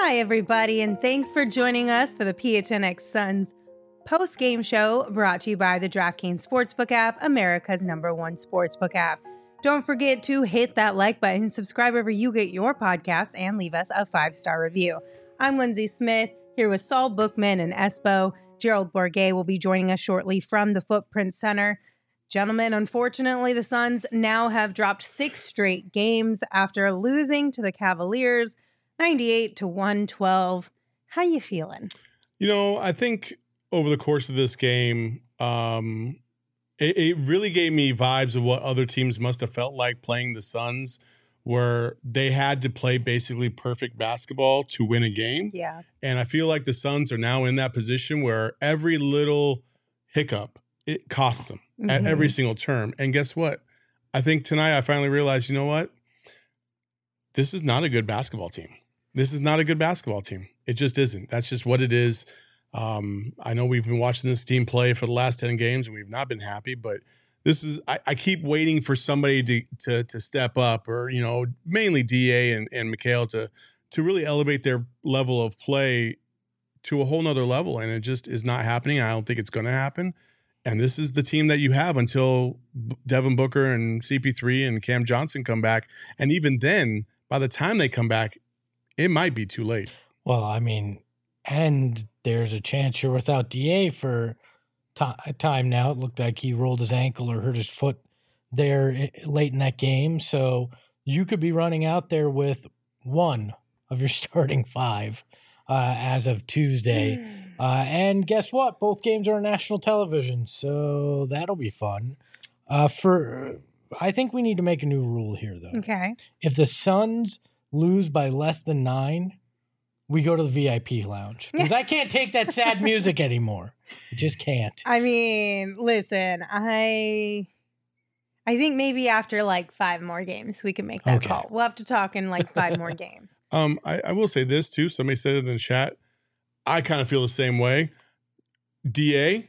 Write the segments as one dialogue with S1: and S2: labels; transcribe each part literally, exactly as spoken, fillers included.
S1: Hi, everybody, and thanks for joining us for the P H N X Suns post-game show brought to you by the DraftKings Sportsbook app, America's number one sportsbook app. Don't forget to hit that like button, subscribe wherever you get your podcasts, and leave us a five-star review. I'm Lindsay Smith, here with Saul Bookman and Espo. Gerald Bourguet will be joining us shortly from the Footprint Center. Gentlemen, unfortunately, the Suns now have dropped six straight games after losing to the Cavaliers ninety-eight to one twelve. How you feeling?
S2: You know, I think over the course of this game, um, it, it really gave me vibes of what other teams must have felt like playing the Suns, where they had to play basically perfect basketball to win a game.
S1: Yeah.
S2: And I feel like the Suns are now in that position where every little hiccup, it costs them mm-hmm. at every single term. And guess what? I think tonight I finally realized, you know what? This is not a good basketball team. This is not a good basketball team. It just isn't. That's just what it is. Um, I know we've been watching this team play for the last ten games and we've not been happy, but this is, I, I keep waiting for somebody to, to, to step up, or, you know, mainly D A and, and Mikal to, to really elevate their level of play to a whole nother level. And it just is not happening. I don't think it's going to happen. And this is the team that you have until Devin Booker and C P three and Cam Johnson come back. And even then, by the time they come back, it might be too late.
S3: Well, I mean, and there's a chance you're without D A for t- time now. It looked like he rolled his ankle or hurt his foot there late in that game. So you could be running out there with one of your starting five uh, as of Tuesday. Mm. Uh, and guess what? Both games are on national television, so that'll be fun. Uh, for I think we need to make a new rule here, though.
S1: Okay.
S3: If the Suns lose by less than nine, we go to the V I P lounge. Because I can't take that sad music anymore. I just can't.
S1: I mean, listen, I I think maybe after like five more games, we can make that
S3: okay.
S1: call. We'll have to talk in like five more games.
S2: Um, I, I will say this too. Somebody said it in the chat. I kind of feel the same way. D A,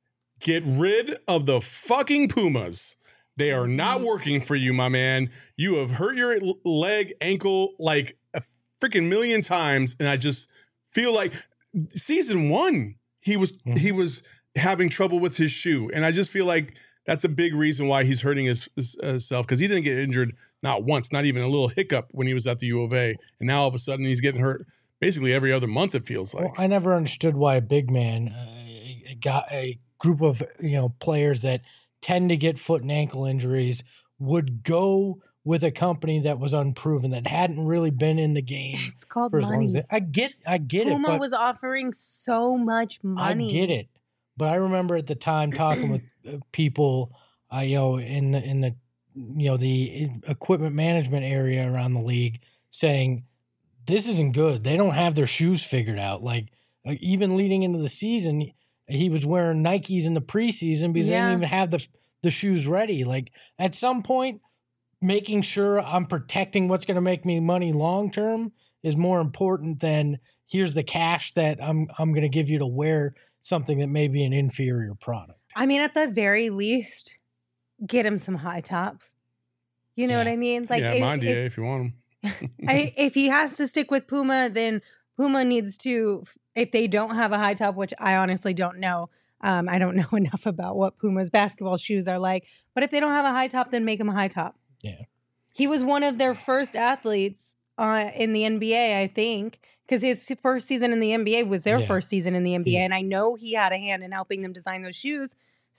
S2: get rid of the fucking Pumas. They are not working for you, my man. You have hurt your leg, ankle like a freaking million times, and I just feel like season one he was mm-hmm. he was having trouble with his shoe, and I just feel like that's a big reason why he's hurting his, his uh, self, because he didn't get injured not once, not even a little hiccup when he was at the U of A, and now all of a sudden he's getting hurt basically every other month. It feels like.
S3: Well, I never understood why a big man uh, got a group of you know players that tend to get foot and ankle injuries would go with a company that was unproven, that hadn't really been in the game.
S1: It's called
S3: for as
S1: money.
S3: long as it, I get, I get
S1: Puma
S3: it. Puma
S1: was offering so much money.
S3: I get it, but I remember at the time talking with people, uh, you know, in the in the you know the equipment management area around the league, saying this isn't good. They don't have their shoes figured out. Like, like even leading into the season, he was wearing Nikes in the preseason because yeah. they didn't even have the the shoes ready. Like at some point, making sure I'm protecting what's going to make me money long term is more important than here's the cash that I'm I'm going to give you to wear something that may be an inferior product.
S1: I mean, at the very least, get him some high tops. You know yeah. what I mean?
S2: Like, yeah, if, mind if, you, if you want
S1: them. I, if he has to stick with Puma, then Puma needs to. If they don't have a high top, which I honestly don't know, um, I don't know enough about what Puma's basketball shoes are like. But if they don't have a high top, then make him a high top.
S3: Yeah,
S1: he was one of their first athletes uh, in the N B A, I think, because his first season in the N B A was their yeah. first season in the N B A, yeah. and I know he had a hand in helping them design those shoes.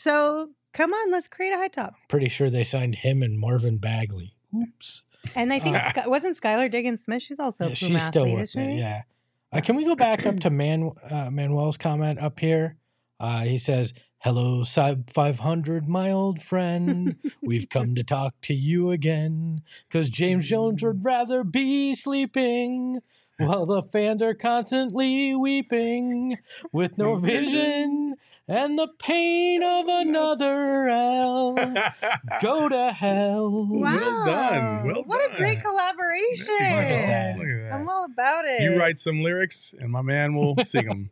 S1: So come on, let's create a high top.
S3: Pretty sure they signed him and Marvin Bagley. Oops.
S1: And I think uh, Sky, wasn't Skylar Diggins Smith? She's also
S3: yeah,
S1: a
S3: she's
S1: Puma
S3: still
S1: athlete,
S3: with it. Yeah. Uh, can we go back up to Man uh, Manuel's comment up here? Uh, he says, "Hello, Sub five hundred, my old friend. We've come to talk to you again, because James Jones would rather be sleeping while the fans are constantly weeping with no vision and the pain of another L. Go to hell."
S1: Wow.
S2: Well done. Well
S1: what
S2: done.
S1: a great collaboration.
S2: Look at that. Look at that.
S1: I'm all about it.
S2: You write some lyrics and my man will sing them.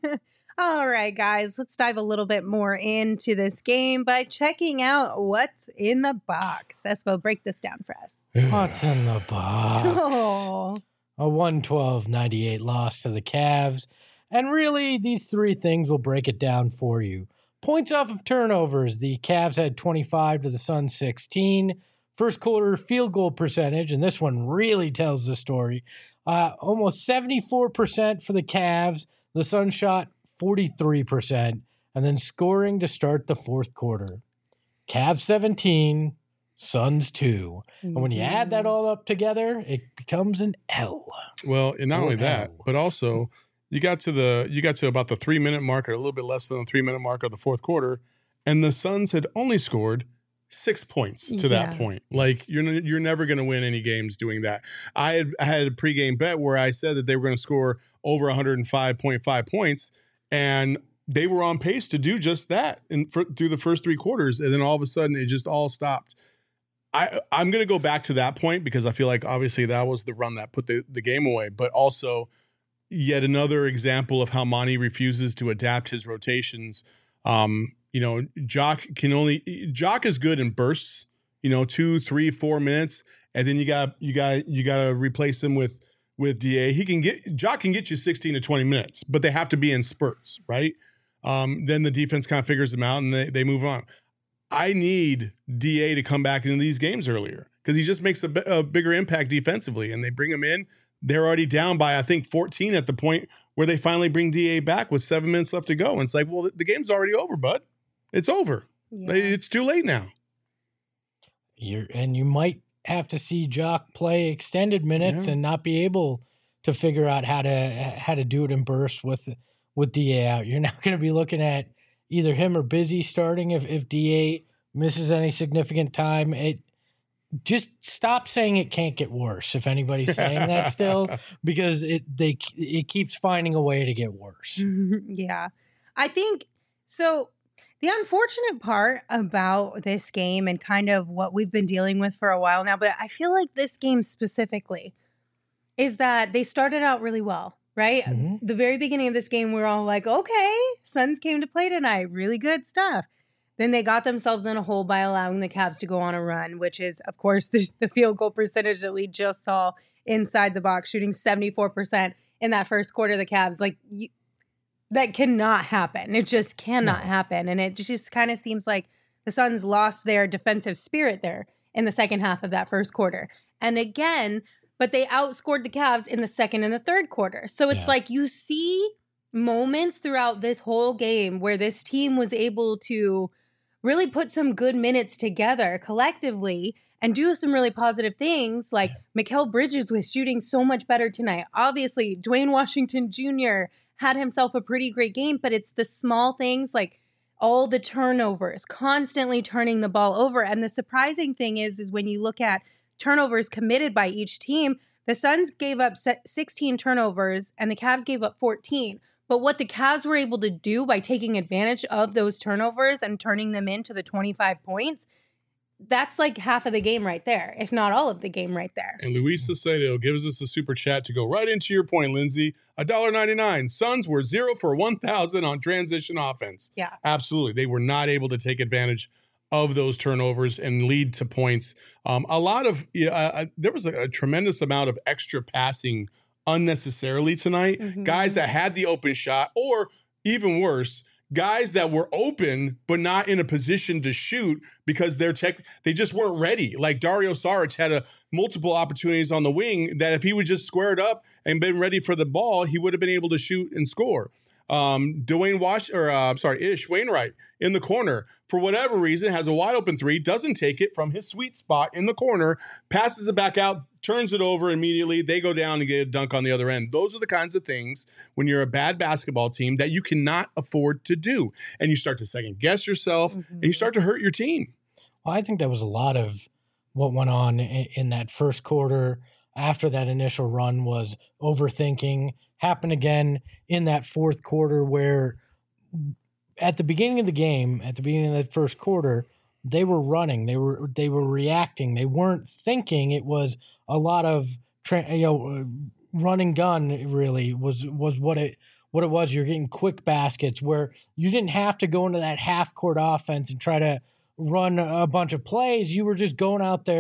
S1: All right, guys, let's dive a little bit more into this game by checking out what's in the box. Espo, break this down for us.
S3: What's in the box?
S1: Oh,
S3: a one twelve ninety-eight loss to the Cavs. And really, these three things will break it down for you. Points off of turnovers. The Cavs had twenty-five to the Suns sixteen. First quarter field goal percentage, and this one really tells the story. Uh, almost seventy-four percent for the Cavs. The Suns shot forty-three percent. And then scoring to start the fourth quarter. Cavs seventeen, Suns two. And when you add that all up together, it becomes an L.
S2: Well, and not
S3: Or
S2: only that,
S3: L.
S2: but also you got to the you got to about the three minute mark, or a little bit less than the three minute mark of the fourth quarter, and the Suns had only scored six points to
S1: Yeah.
S2: that point. Like you're n- you're never going to win any games doing that. I had I had a pregame bet where I said that they were going to score over one hundred five point five points, and they were on pace to do just that in for, through the first three quarters, and then all of a sudden it just all stopped. I I'm going to go back to that point because I feel like obviously that was the run that put the, the game away, but also yet another example of how Monty refuses to adapt his rotations. Um, you know, Jock can only Jock is good in bursts, you know, two, three, four minutes, and then you got you got you got to replace him with with D A. He can get Jock can get you sixteen to twenty minutes, but they have to be in spurts, right? Um, then the defense kind of figures them out and they they move on. I need D A to come back into these games earlier because he just makes a, b- a bigger impact defensively, and they bring him in. They're already down by, I think, fourteen at the point where they finally bring D A back with seven minutes left to go. And it's like, well, the game's already over, bud. It's over.
S1: Yeah.
S2: It's too late now.
S3: You're, and you might have to see Jock play extended minutes
S2: Yeah.
S3: and not be able to figure out how to how to do it in bursts with with D A out. You're not going to be looking at either him or Busy starting if, if D A misses any significant time. It just stop saying it can't get worse if anybody's saying that still, because it they it keeps finding a way to get worse.
S1: Yeah. I think so. The unfortunate part about this game and kind of what we've been dealing with for a while now, but I feel like this game specifically is that they started out really well, right?
S3: Mhm.
S1: The very beginning of this game, we were all like, okay, Suns came to play tonight. Really good stuff. Then they got themselves in a hole by allowing the Cavs to go on a run, which is, of course, the, the field goal percentage that we just saw inside the box, shooting seventy-four percent in that first quarter of the Cavs. Like, you, that cannot happen. It just cannot
S3: No.
S1: happen. And it just kind of seems like the Suns lost their defensive spirit there in the second half of that first quarter. And again, but they outscored the Cavs in the second and the third quarter. So it's
S3: Yeah.
S1: like you see moments throughout this whole game where this team was able to really put some good minutes together collectively and do some really positive things. Like Mikal Bridges was shooting so much better tonight. Obviously, Dwayne Washington Junior had himself a pretty great game, but it's the small things like all the turnovers, constantly turning the ball over. And the surprising thing is, is when you look at turnovers committed by each team, the Suns gave up sixteen turnovers and the Cavs gave up fourteen. But what the Cavs were able to do by taking advantage of those turnovers and turning them into the twenty-five points, that's like half of the game right there, if not all of the game right there.
S2: And Luis Sacedo gives us a super chat to go right into your point, Lindsay. one dollar ninety-nine. Suns were zero for one thousand on transition offense.
S1: Yeah.
S2: Absolutely. They were not able to take advantage of those turnovers and lead to points. Um, a lot of, you know, uh, there was a, a tremendous amount of extra passing unnecessarily tonight.
S1: Mhm.
S2: Guys that had the open shot, or even worse, guys that were open but not in a position to shoot because they're tech they just weren't ready. Like Dario Saric had a multiple opportunities on the wing that if he would just square it up and been ready for the ball, he would have been able to shoot and score. Um, Dwayne Wash or uh, I'm sorry, Ish Wainwright in the corner for whatever reason has a wide open three, doesn't take it from his sweet spot in the corner, passes it back out, turns it over immediately. They go down and get a dunk on the other end. Those are the kinds of things when you're a bad basketball team that you cannot afford to do, and you start to second guess yourself,
S1: Mm-hmm.
S2: and you start to hurt your team.
S3: Well, I think that was a lot of what went on in, in that first quarter after that initial run was overthinking. Happened again in that fourth quarter where at the beginning of the game, at the beginning of that first quarter, they were running, they were they were reacting, they weren't thinking. It was a lot of tra- you know run and gun. Really was was what it what it was. You're getting quick baskets where you didn't have to go into that half court offense and try to run a bunch of plays. You were just going out there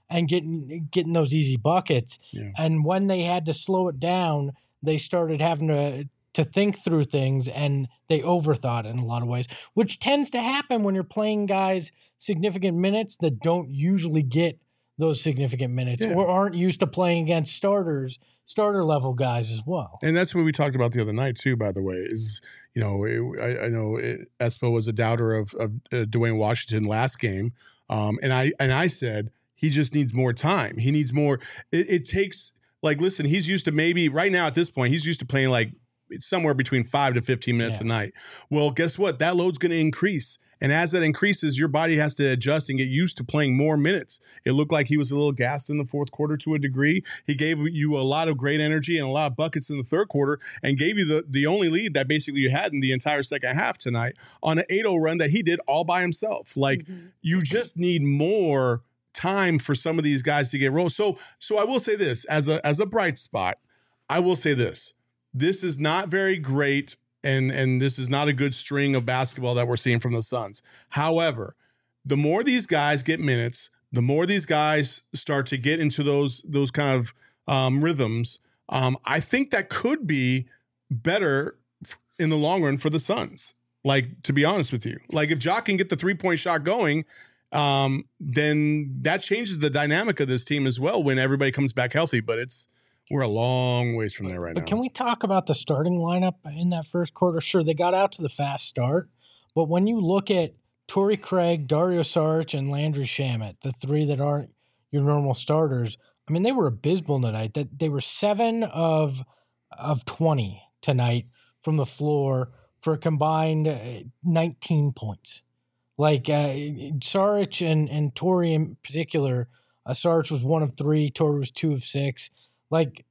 S3: and getting getting those easy buckets.
S2: Yeah.
S3: And when they had to slow it down, they started having to to think through things, and they overthought it in a lot of ways, which tends to happen when you're playing guys significant minutes that don't usually get those significant minutes
S2: Yeah.
S3: or aren't used to playing against starters, starter level guys as well.
S2: And that's what we talked about the other night too, by the way, is, you know, it, I, I know it, Espo was a doubter of, of uh, Dwayne Washington last game. Um, and I, and I said, he just needs more time. He needs more. It, it takes, like, listen, he's used to maybe right now at this point, he's used to playing like somewhere between five to fifteen minutes
S3: Yeah.
S2: a night. Well, guess what? That load's going to increase. And as that increases, your body has to adjust and get used to playing more minutes. It looked like he was a little gassed in the fourth quarter to a degree. He gave you a lot of great energy and a lot of buckets in the third quarter and gave you the, the only lead that basically you had in the entire second half tonight on an eight oh run that he did all by himself. Like, mm-hmm. you just need more time for some of these guys to get rolled. So, so I will say this as a, as a bright spot, I will say this. This is not very great, and and this is not a good string of basketball that we're seeing from the Suns. However, the more these guys get minutes, the more these guys start to get into those those kind of um, rhythms, um, I think that could be better in the long run for the Suns. Like, to be honest with you, like if Ja can get the three-point shot going, um, then that changes the dynamic of this team as well when everybody comes back healthy. But it's We're a long ways from there right
S3: but
S2: now.
S3: But can we talk about the starting lineup in that first quarter? Sure, they got out to the fast start, but when you look at Torrey Craig, Dario Saric, and Landry Shamet, the three that aren't your normal starters, I mean, they were abysmal tonight. That they were seven of of twenty tonight from the floor for a combined nineteen points. Like uh, Saric and and Torrey in particular, uh, Saric was one of three, Torrey was two of six. Like,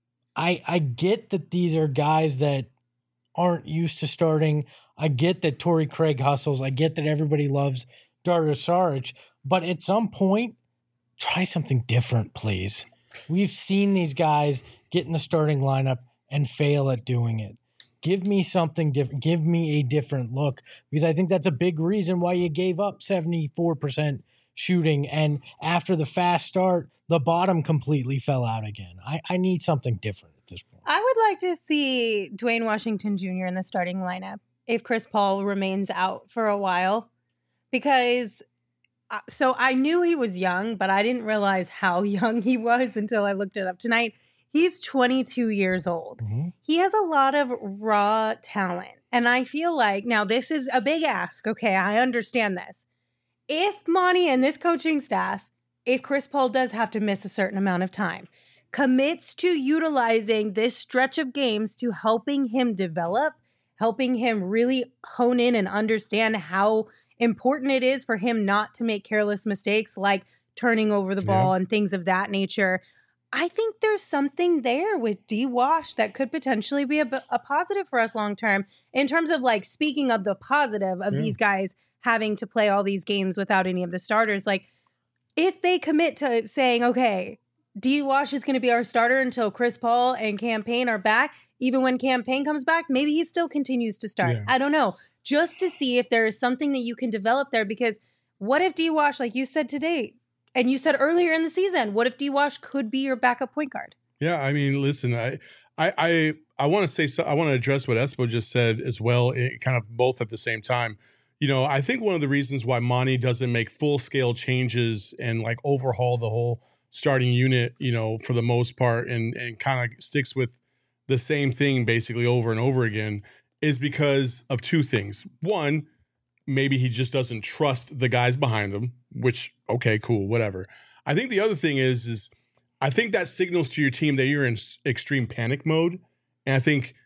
S3: I I get that these are guys that aren't used to starting. I get that Torrey Craig hustles. I get that everybody loves Dario Saric. But at some point, try something different, please. We've seen these guys get in the starting lineup and fail at doing it. Give me something different. Give me a different look, because I think that's a big reason why you gave up seventy-four percent shooting, and after the fast start, the bottom completely fell out again. I, I need something different at this point.
S1: I would like to see Dwayne Washington Junior in the starting lineup if Chris Paul remains out for a while, because uh, so I knew he was young, but I didn't realize how young he was until I looked it up tonight. He's twenty-two years old. Mm-hmm. He has a lot of raw talent. And I feel like, now this is a big ask. Okay, I understand this. If Monty and this coaching staff, if Chris Paul does have to miss a certain amount of time, commits to utilizing this stretch of games to helping him develop, helping him really hone in and understand how important it is for him not to make careless mistakes like turning over the ball yeah. and things of that nature, I think there's something there with D Wash that could potentially be a, a positive for us long term in terms of, like, speaking of the positive of yeah. these guys having to play all these games without any of the starters. Like, if they commit to saying, okay, D Wash is going to be our starter until Chris Paul and Cam Payne are back, even when Cam Payne comes back, maybe he still continues to start. Yeah. I don't know. Just to see if there is something that you can develop there, because what if D Wash, like you said today, and you said earlier in the season, what if D Wash could be your backup point guard?
S2: Yeah, I mean, listen, I I I, I want to say so, I want to address what Espo just said as well, it, kind of both at the same time. You know, I think one of the reasons why Monty doesn't make full scale changes and like overhaul the whole starting unit, you know, for the most part, and and kind of sticks with the same thing basically over and over again, is because of two things. One, maybe he just doesn't trust the guys behind him, which, okay, cool, whatever. I think the other thing is, is I think that signals to your team that you're in extreme panic mode. And I think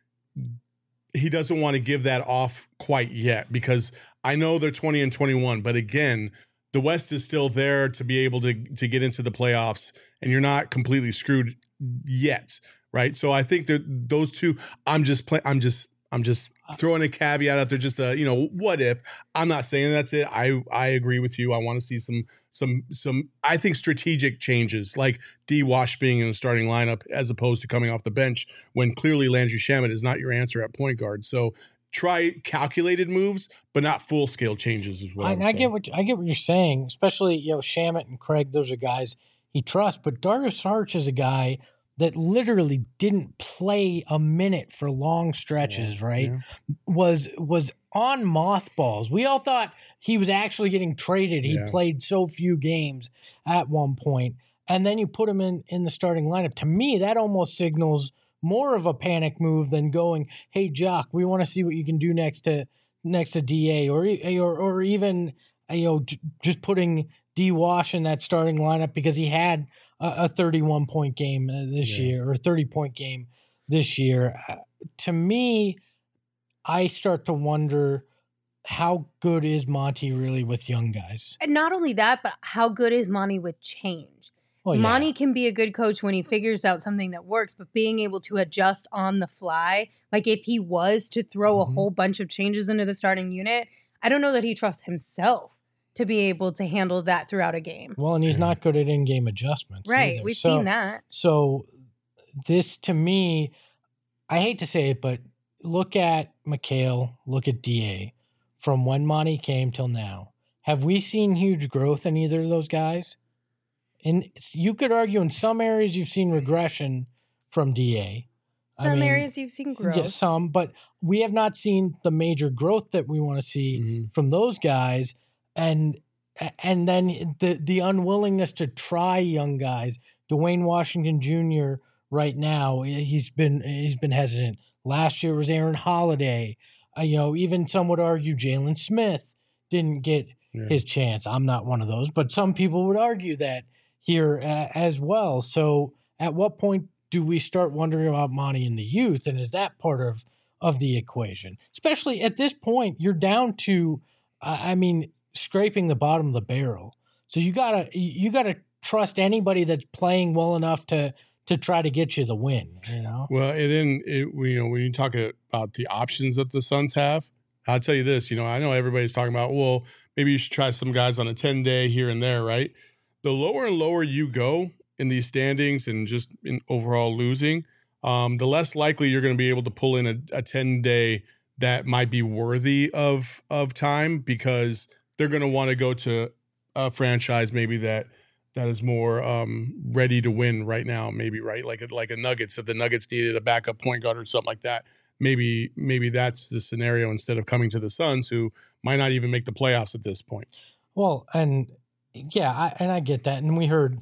S2: he doesn't want to give that off quite yet, because I know they're twenty and twenty-one, but again, the West is still there to be able to, to get into the playoffs, and you're not completely screwed yet. Right. So I think that those two, I'm just play, I'm just, I'm just throwing a caveat out there, just a, you know, what if. I'm not saying that's it. I, I agree with you. I want to see some, some, some, I think strategic changes, like D Wash being in the starting lineup as opposed to coming off the bench when clearly Landry Shamet is not your answer at point guard. So try calculated moves, but not full scale changes as well.
S3: I, I, I get what I get what you're saying, especially, you know, Shamet and Craig. Those are guys he trusts. But Darius Saric is a guy that literally didn't play a minute for long stretches, yeah, right? Yeah. Was was on mothballs. We all thought he was actually getting traded. He yeah. played so few games at one point. And then you put him in, in the starting lineup. To me, that almost signals more of a panic move than going, hey, Jock, we want to see what you can do next to next to D A, or or or even you know just putting D Wash in that starting lineup because he had a thirty-one point game this yeah. year or thirty point game this year. Uh, to me, I start to wonder, how good is Monty really with young guys?
S1: And not only that, but how good is Monty with change? Well, yeah. Monty can be a good coach when he figures out something that works, but being able to adjust on the fly, like if he was to throw mm-hmm. a whole bunch of changes into the starting unit, I don't know that he trusts himself to be able to handle that throughout a game.
S3: Well, and he's not good at in-game adjustments.
S1: Right.
S3: Either.
S1: We've
S3: so,
S1: seen that.
S3: So this, to me, I hate to say it, but look at McHale, look at D A. From when Monty came till now, have we seen huge growth in either of those guys? And you could argue in some areas you've seen regression from D A.
S1: Some I mean, areas you've seen growth.
S3: Yeah, some, but we have not seen the major growth that we want to see mm-hmm. from those guys. And and then the the unwillingness to try young guys. Dwayne Washington Junior right now, he's been he's been hesitant. Last year was Aaron Holiday. Uh, you know, even some would argue Jalen Smith didn't get yeah. his chance. I'm not one of those, but some people would argue that here uh, as well. So at what point do we start wondering about Monty in the youth? And is that part of, of the equation? Especially at this point, you're down to, uh, I mean, scraping the bottom of the barrel. So you gotta, you gotta trust anybody that's playing well enough to, to try to get you the win, you know?
S2: Well, and then, it, you know, when you talk about the options that the Suns have, I'll tell you this, you know, I know everybody's talking about, well, maybe you should try some guys on a ten day here and there, right? The lower and lower you go in these standings and just in overall losing, um, the less likely you're going to be able to pull in a, a ten day that might be worthy of of time, because they're going to want to go to a franchise maybe that that is more um, ready to win right now, maybe, right? Like a, like a Nuggets, if the Nuggets needed a backup point guard or something like that, maybe maybe that's the scenario instead of coming to the Suns, who might not even make the playoffs at this point.
S3: Well, and yeah, I, and I get that. And we heard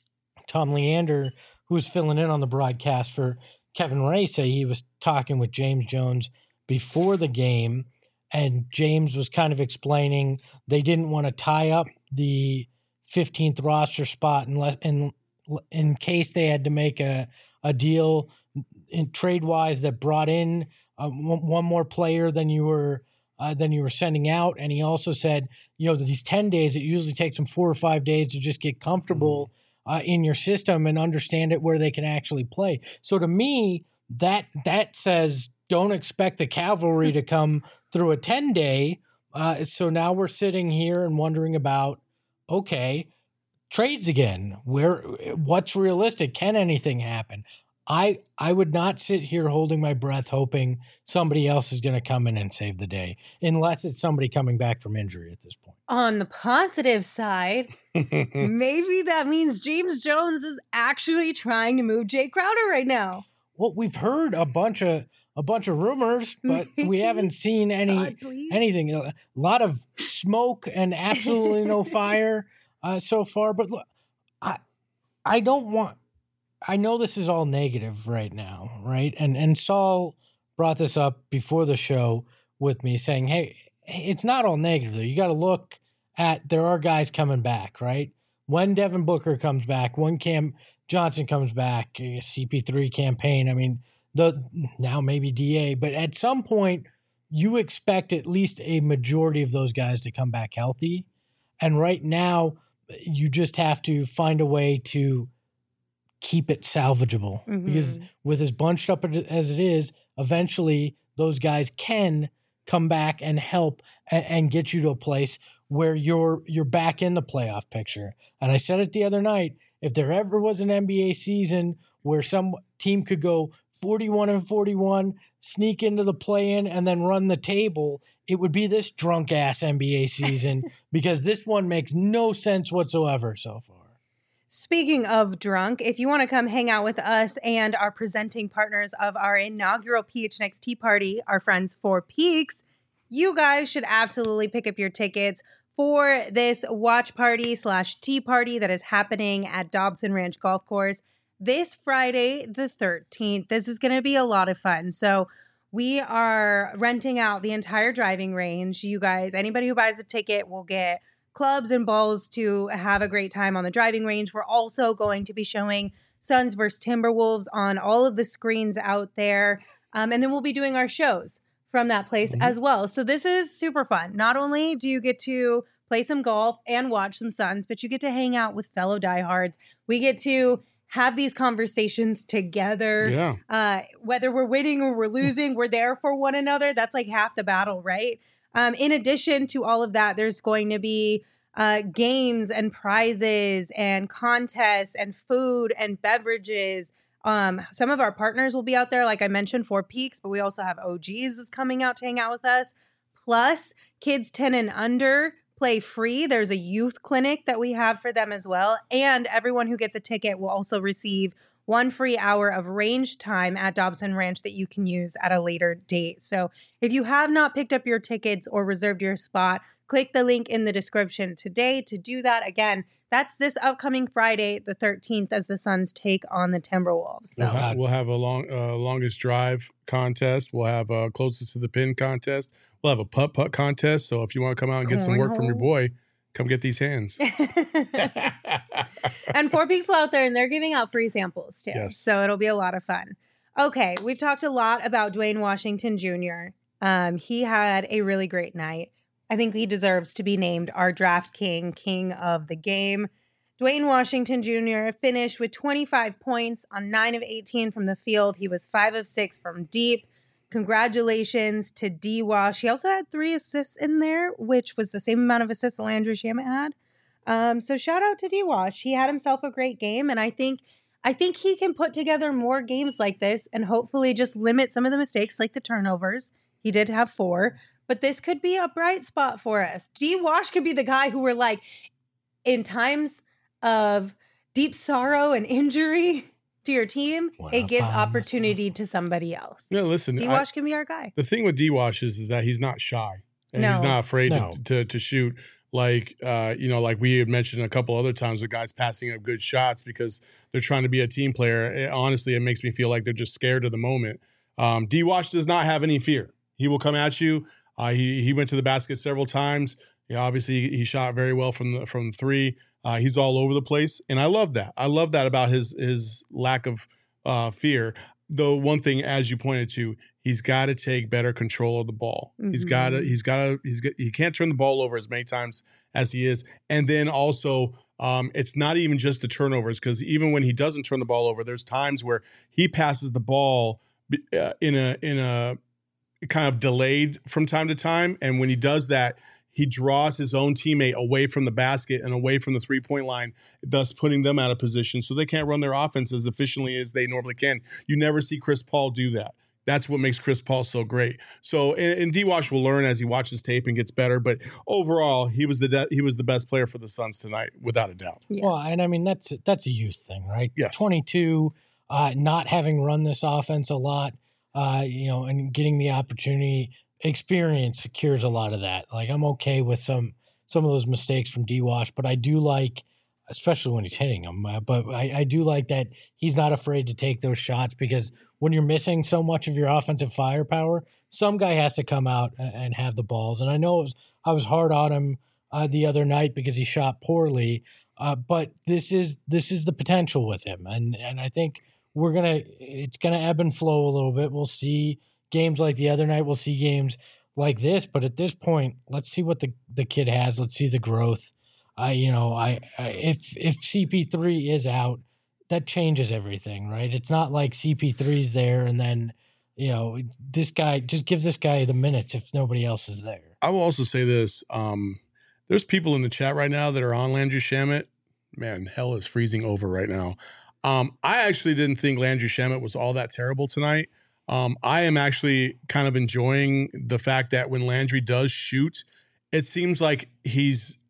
S3: Tom Leander, who was filling in on the broadcast for Kevin Ray, say he was talking with James Jones before the game, and James was kind of explaining they didn't want to tie up the fifteenth roster spot unless in in case they had to make a a deal in trade wise that brought in uh, one, one more player than you were uh, than you were sending out. And he also said, you know, that these ten days, it usually takes them four or five days to just get comfortable uh, in your system and understand it where they can actually play. So to me, that that says don't expect the cavalry to come through a ten day. Uh, so now we're sitting here and wondering about, okay, trades again. Where what's realistic? Can anything happen? I I would not sit here holding my breath hoping somebody else is going to come in and save the day, unless it's somebody coming back from injury at this point.
S1: On the positive side, maybe that means James Jones is actually trying to move Jay Crowder right now.
S3: Well, we've heard a bunch of a bunch of rumors, but we haven't seen any
S1: God,
S3: anything. A lot of smoke and absolutely no fire uh, so far. But look, I I don't want. I know this is all negative right now, right? And and Saul brought this up before the show with me, saying, "Hey, it's not all negative though. You got to look at there are guys coming back, right? When Devin Booker comes back, when Cam Johnson comes back, C P three campaign. I mean, the now maybe D A, but at some point you expect at least a majority of those guys to come back healthy. And right now, you just have to find a way to keep it salvageable, mm-hmm. because with as bunched up as it is, eventually those guys can come back and help and, and get you to a place where you're you're back in the playoff picture. And I said it the other night, if there ever was an N B A season where some team could go forty-one and forty-one, sneak into the play-in, and then run the table, it would be this drunk-ass N B A season, because this one makes no sense whatsoever so far.
S1: Speaking of drunk, if you want to come hang out with us and our presenting partners of our inaugural P H N X Tea Party, our friends Four Peaks, you guys should absolutely pick up your tickets for this watch party slash tea party that is happening at Dobson Ranch Golf Course this Friday, the thirteenth. This is going to be a lot of fun. So we are renting out the entire driving range. You guys, anybody who buys a ticket will get clubs and balls to have a great time on the driving range. We're also going to be showing Suns versus Timberwolves on all of the screens out there. Um, and then we'll be doing our shows from that place mm-hmm. as well. So this is super fun. Not only do you get to play some golf and watch some Suns, but you get to hang out with fellow diehards. We get to have these conversations together.
S2: Yeah.
S1: Uh, whether we're winning or we're losing, we're there for one another. That's like half the battle, right? Um, in addition to all of that, there's going to be uh, games and prizes and contests and food and beverages. Um, some of our partners will be out there, like I mentioned, Four Peaks, but we also have O Gs is coming out to hang out with us. Plus, kids ten and under play free. There's a youth clinic that we have for them as well. And everyone who gets a ticket will also receive one free hour of range time at Dobson Ranch that you can use at a later date. So if you have not picked up your tickets or reserved your spot, click the link in the description today to do that. Again, that's this upcoming Friday, the thirteenth, as the Suns take on the Timberwolves. So
S2: we'll have, we'll have a long, uh, longest drive contest. We'll have a closest to the pin contest. We'll have a putt putt contest. So if you want to come out and get some work from your boy, come get these hands.
S1: And Four Peaks will out there, and they're giving out free samples too.
S2: Yes.
S1: So it'll be a lot of fun. Okay, we've talked a lot about Dwayne Washington Junior Um, he had a really great night. I think he deserves to be named our draft king, king of the game. Dwayne Washington Junior finished with twenty-five points on nine of eighteen from the field. He was five of six from deep. Congratulations to D-Wash. He also had three assists in there, which was the same amount of assists Landry Shamet had. Um, so shout out to D-Wash. He had himself a great game, and I think I think he can put together more games like this and hopefully just limit some of the mistakes like the turnovers. He did have four, but this could be a bright spot for us. D-Wash could be the guy who we're like, in times of deep sorrow and injury to your team, what it gives opportunity myself. to somebody else.
S2: No, listen,
S1: D-Wash can be our guy.
S2: The thing with D-Wash is, is that he's not shy and
S1: no.
S2: he's not afraid
S3: no.
S2: to, to to shoot. Like, uh, you know, like we had mentioned a couple other times, the guys passing up good shots because they're trying to be a team player. It, honestly, it makes me feel like they're just scared of the moment. Um, D-Wash does not have any fear. He will come at you. Uh, he he went to the basket several times. Yeah, obviously, he shot very well from the from three. Uh, he's all over the place, and I love that. I love that about his his lack of uh, fear. Though one thing, as you pointed to, he's got to take better control of the ball. Mm-hmm. He's got to. He's got to. He's got, he can't turn the ball over as many times as he is, and then also. Um, it's not even just the turnovers, because even when he doesn't turn the ball over, there's times where he passes the ball uh, in a in a kind of delayed from time to time, and when he does that, he draws his own teammate away from the basket and away from the three-point line, thus putting them out of position so they can't run their offense as efficiently as they normally can. You never see Chris Paul do that. That's what makes Chris Paul so great. So, and, and D-Wash will learn as he watches tape and gets better. But overall, he was the de- he was the best player for the Suns tonight, without a doubt.
S3: Yeah. Well, and I mean that's that's a youth thing, right?
S2: Yes.
S3: twenty-two, uh, not having run this offense a lot, uh, you know, and getting the opportunity, experience secures a lot of that. Like I'm okay with some some of those mistakes from D-Wash, but I do like, especially when he's hitting them. Uh, but I, I do like that he's not afraid to take those shots, because when you're missing so much of your offensive firepower, some guy has to come out and, and have the balls. And I know it was, I was hard on him uh, the other night because he shot poorly, uh, but this is this is the potential with him, and and I think we're gonna it's gonna ebb and flow a little bit. We'll see games like the other night. We'll see games like this. But at this point, let's see what the, the kid has. Let's see the growth. I, you know, I, I if if C P three is out, that changes everything, right? It's not like C P three's there and then, you know, this guy just gives this guy the minutes if nobody else is there.
S2: I will also say this: um, there's people in the chat right now that are on Landry Shamet. Man, hell is freezing over right now. Um, I actually didn't think Landry Shamet was all that terrible tonight. Um, I am actually kind of enjoying the fact that when Landry does shoot, it seems like he's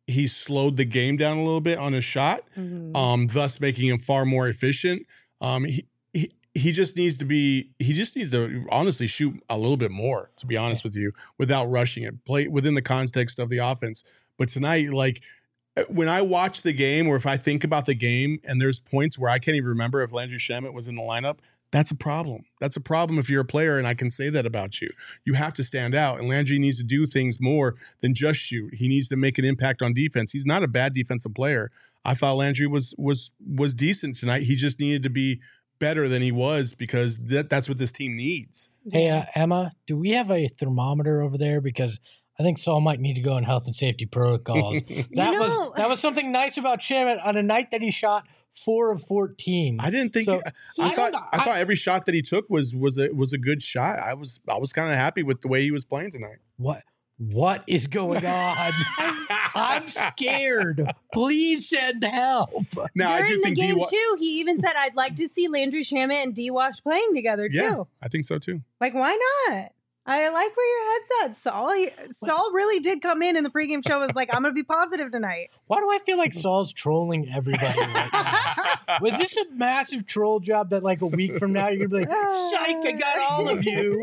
S2: he slowed the game down a little bit on his shot, mm-hmm. um, thus making him far more efficient. Um, he, he he just needs to be he just needs to honestly shoot a little bit more, to be honest yeah. with you, without rushing it. Play within the context of the offense. But tonight, like when I watch the game, or if I think about the game, and there's points where I can't even remember if Landry Shamet was in the lineup. That's a problem. That's a problem if you're a player, and I can say that about you. You have to stand out, and Landry needs to do things more than just shoot. He needs to make an impact on defense. He's not a bad defensive player. I thought Landry was was was decent tonight. He just needed to be better than he was, because that, that's what this team needs.
S3: Hey, uh, Emma, do we have a thermometer over there? Because I think Saul might need to go in health and safety protocols. That you know, was that was something nice about Shamet on a night that he shot four of fourteen.
S2: I didn't think. So, I, I thought. I, I thought every shot that he took was was a was a good shot. I was I was kind of happy with the way he was playing tonight.
S3: What What is going on? I'm scared. Please send help.
S1: Now, During I do the think game D- too, he even said, "I'd like to see Landry Shamet and D-Wash playing together too."
S2: Yeah, I think so too.
S1: Like, why not? I like where your head's at, Saul. He, Saul really did come in in the pregame show. Was like, I'm going to be positive tonight.
S3: Why do I feel like Saul's trolling everybody right now? Was this a massive troll job that like a week from now you're going to be like, psych, I got all of you?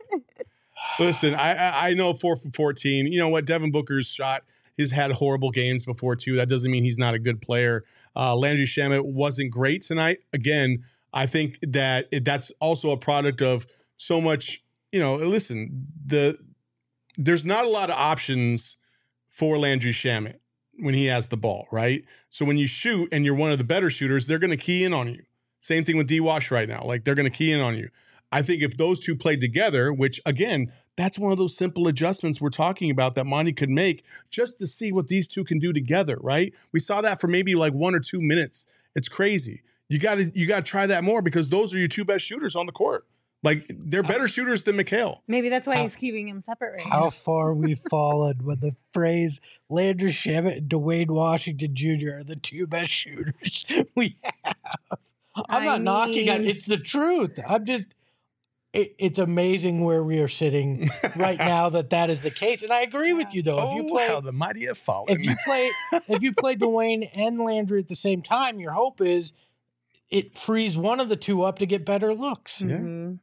S2: Listen, I, I I know four for fourteen. You know what? Devin Booker's shot, he's had horrible games before too. That doesn't mean he's not a good player. Uh, Landry Shamet wasn't great tonight. Again, I think that it, that's also a product of so much. You know, listen, the there's not a lot of options for Landry Shamet when he has the ball, right? So when you shoot and you're one of the better shooters, they're going to key in on you. Same thing with D-Wash right now. Like, they're going to key in on you. I think if those two played together, which, again, that's one of those simple adjustments we're talking about that Monty could make just to see what these two can do together, right? We saw that for maybe like one or two minutes. It's crazy. You got to you got to try that more, because those are your two best shooters on the court. Like, they're better shooters than Mikal.
S1: Maybe that's why how, he's keeping him separate right
S3: how
S1: now.
S3: How far we've fallen when the phrase Landry Shamet and Dwayne Washington Junior are the two best shooters we have. I'm I not mean, knocking it. It's the truth. I'm just, it, it's amazing where we are sitting right now that that is the case. And I agree yeah. with you, though.
S2: Oh,
S3: if you play,
S2: how the mighty have fallen.
S3: If you play, if you play Dwayne and Landry at the same time, your hope is it frees one of the two up to get better looks.
S2: Yeah.
S1: Mm-hmm.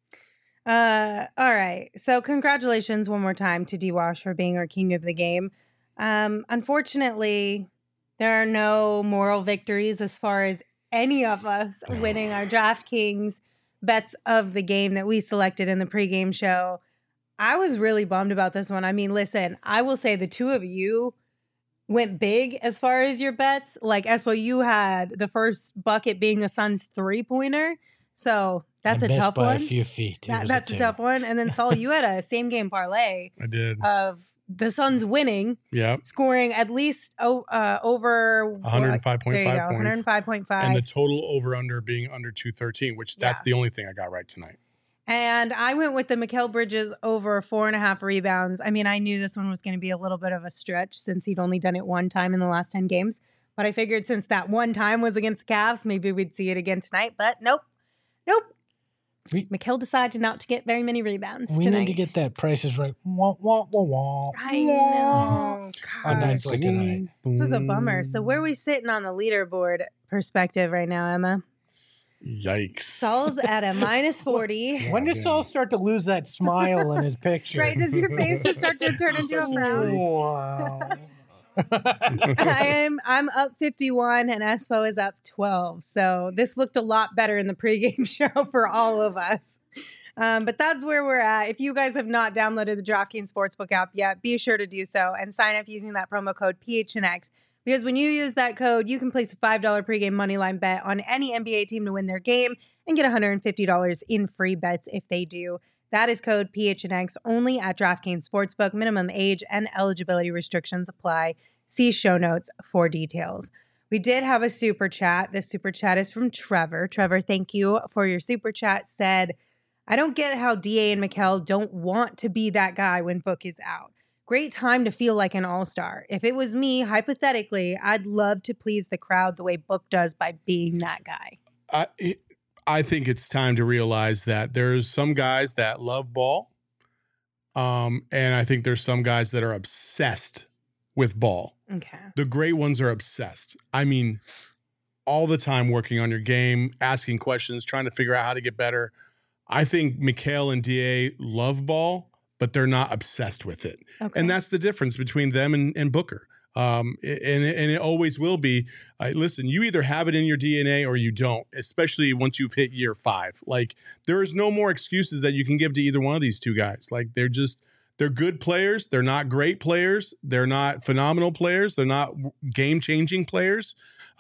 S1: Uh, all right. So congratulations one more time to D-Wash for being our king of the game. Um, unfortunately, there are no moral victories as far as any of us winning our DraftKings bets of the game that we selected in the pregame show. I was really bummed about this one. I mean, listen, I will say the two of you went big as far as your bets. Like, Espo, you had the first bucket being a Suns three-pointer. So that's
S3: I
S1: a tough
S3: by
S1: one.
S3: A few feet.
S1: That, that's a, a tough one. And then Saul, you had a same game parlay.
S2: I did.
S1: Of the Suns winning.
S2: Yeah.
S1: Scoring at least oh, uh, over
S2: one oh five point five points.
S1: one oh five point five.
S2: And the total over under being under two thirteen, which that's yeah. the only thing I got right tonight.
S1: And I went with the Mikal Bridges over four and a half rebounds. I mean, I knew this one was going to be a little bit of a stretch since he'd only done it one time in the last ten games. But I figured since that one time was against the Cavs, maybe we'd see it again tonight. But nope. Nope. We, Mikal decided not to get very many rebounds
S3: we
S1: tonight.
S3: need to get that prices right. Wah, wah, wah, wah.
S1: I know.
S3: On nights like tonight.
S1: This is a bummer. So where are we sitting on the leaderboard perspective right now, Emma?
S2: Yikes.
S1: Saul's at a minus forty.
S3: When does Saul start to lose that smile in his picture?
S1: Right? Does your face just start to turn into a frown?
S3: Wow.
S1: I am I'm up fifty-one and Espo is up twelve. So this looked a lot better in the pregame show for all of us. Um, but that's where we're at. If you guys have not downloaded the DraftKings Sportsbook app yet, be sure to do so and sign up using that promo code P H N X. Because when you use that code, you can place a five dollars pregame moneyline bet on any N B A team to win their game and get one hundred fifty dollars in free bets if they do. That is code P H N X only at DraftKings Sportsbook. Minimum age and eligibility restrictions apply. See show notes for details. We did have a super chat. This super chat is from Trevor. Trevor, thank you for your super chat. Said, I don't get how D A and Mikal don't want to be that guy when Book is out. Great time to feel like an all-star. If it was me, hypothetically, I'd love to please the crowd the way Book does by being that guy.
S2: I I think it's time to realize that there's some guys that love ball, um, and I think there's some guys that are obsessed with ball.
S1: Okay.
S2: The great ones are obsessed. I mean, all the time working on your game, asking questions, trying to figure out how to get better. I think Mikal and D A love ball, but they're not obsessed with it.
S1: Okay.
S2: And that's the difference between them and, and Booker. Um, and, and it always will be. Uh, listen, you either have it in your D N A or you don't, especially once you've hit year five. Like, there is no more excuses that you can give to either one of these two guys. Like, they're just, they're good players. They're not great players. They're not phenomenal players. They're not game-changing players.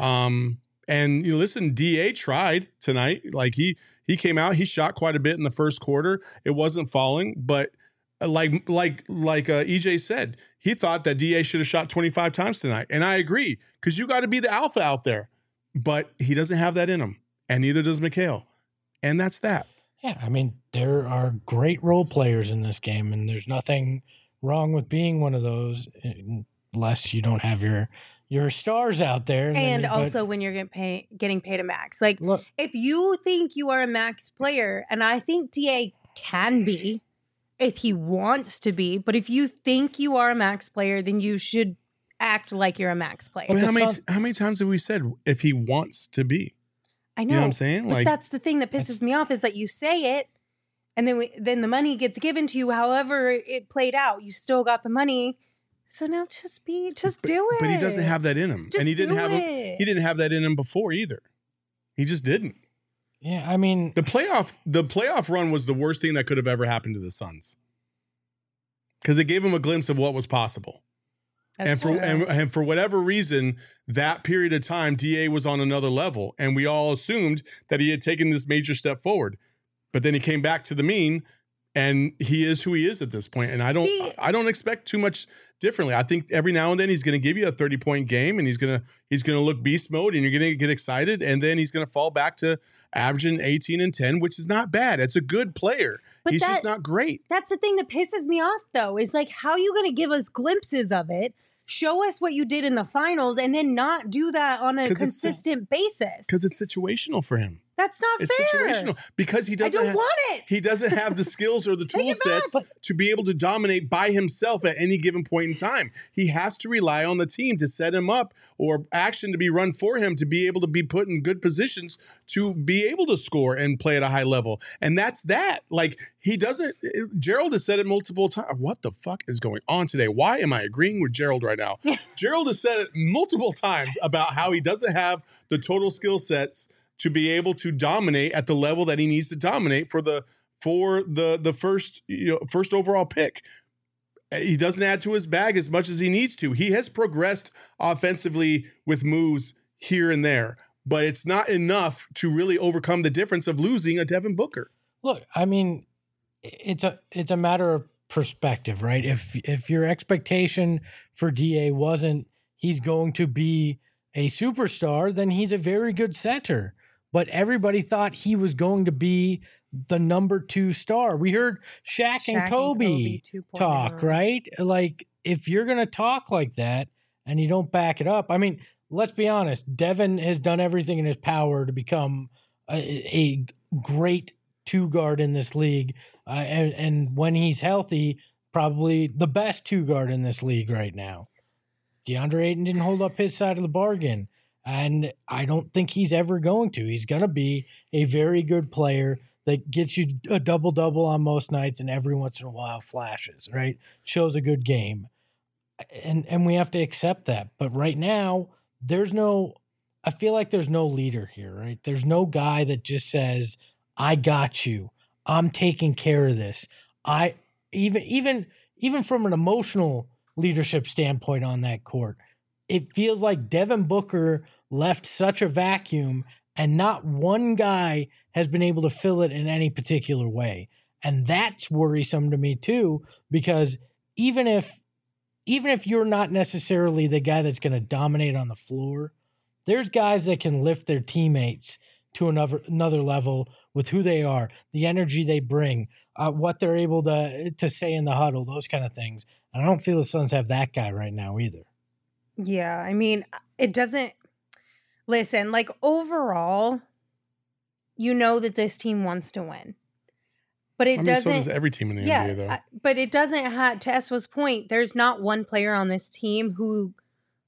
S2: Um, and you know, listen, D A tried tonight. Like, he he came out, he shot quite a bit in the first quarter. It wasn't falling, but like like like uh, E J said, he thought that D A should have shot twenty-five times tonight. And I agree, because you got to be the alpha out there. But he doesn't have that in him, and neither does Mikal. And that's that.
S3: Yeah, I mean, there are great role players in this game, and there's nothing wrong with being one of those, unless you don't have your your stars out there.
S1: And,
S3: and then,
S1: also
S3: but,
S1: when you're getting paid, getting paid a max. Like,
S3: look,
S1: if you think you are a max player, and I think D A can be, if he wants to be, but if you think you are a max player, then you should act like you're a max player.
S2: I mean, how many
S3: Sun-
S2: how many times have we said if he wants to be?
S1: I know.
S2: You know what I'm saying?
S1: But
S2: Like,
S1: that's the thing that pisses me off, is that you say it, and then we, then the money gets given to you. However it played out, you still got the money. So now just be, just
S2: but,
S1: do it.
S2: But he doesn't have that in him,
S1: Just
S2: and he didn't
S1: do
S2: have
S1: it.
S2: he didn't have that in him before either. He just didn't.
S3: yeah, I mean,
S2: The playoff the playoff run was the worst thing that could have ever happened to the Suns, because it gave him a glimpse of what was possible.
S1: That's
S2: and for
S1: true.
S2: and, and for whatever reason, that period of time, D A was on another level, and we all assumed that he had taken this major step forward. But then he came back to the mean, and he is who he is at this point. And I don't
S1: See-
S2: I don't expect too much differently. I think every now and then he's going to give you a thirty point game, and he's gonna he's gonna look beast mode, and you're gonna get excited, and then he's gonna fall back to averaging eighteen and ten, which is not bad. It's a good player.
S1: But
S2: He's
S1: that-
S2: just not great.
S1: That's the thing that pisses me off, though, is like, how are you going to give us glimpses of it, show us what you did in the finals, and then not do that on a
S2: 'Cause it's so-
S1: consistent basis?
S2: Because it's situational for him.
S1: That's not
S2: It's
S1: fair.
S2: situational because he
S1: I
S2: doesn't.
S1: don't
S2: ha-
S1: want it.
S2: He doesn't have the skills or the
S1: Take
S2: tool
S1: it back.
S2: sets to be able to dominate by himself at any given point in time. He has to rely on the team to set him up, or action to be run for him to be able to be put in good positions to be able to score and play at a high level. And that's that. Like, he doesn't. Gerald has said it multiple times. What the fuck is going on today? Why am I agreeing with Gerald right now? Gerald has said it multiple times about how he doesn't have the total skill sets to be able to dominate at the level that he needs to dominate for the for the the first you know first overall pick. He doesn't add to his bag as much as he needs to. He has progressed offensively with moves here and there, but it's not enough to really overcome the difference of losing a Devin Booker.
S3: look, I mean, it's a it's a matter of perspective, right? If if your expectation for D A wasn't he's going to be a superstar, then he's a very good center. But everybody thought he was going to be the number two star. We heard Shaq,
S1: Shaq
S3: and
S1: and
S3: Kobe,
S1: Kobe two point oh.
S3: talk, right? Like, if you're going to talk like that and you don't back it up, I mean, let's be honest, Devin has done everything in his power to become a, a great two guard in this league. Uh, and, and when he's healthy, probably the best two guard in this league right now. DeAndre Ayton didn't hold up his side of the bargain. And I don't think he's ever going to. He's going to be a very good player that gets you a double-double on most nights and every once in a while flashes, right? Shows a good game. And and we have to accept that. But right now, there's no – I feel like there's no leader here, right? There's no guy that just says, I got you. I'm taking care of this. I even even even from an emotional leadership standpoint on that court, it feels like Devin Booker left such a vacuum and not one guy has been able to fill it in any particular way. And that's worrisome to me too, because even if even if you're not necessarily the guy that's going to dominate on the floor, there's guys that can lift their teammates to another another level with who they are, the energy they bring, uh, what they're able to to say in the huddle, those kind of things. And I don't feel the Suns have that guy right now either.
S1: Yeah, I mean, it doesn't listen, like, overall, you know that this team wants to win. But it
S2: I mean,
S1: doesn't
S2: so does every team in the
S1: yeah,
S2: N B A, though.
S1: I- but it doesn't have, to Espo's point, there's not one player on this team who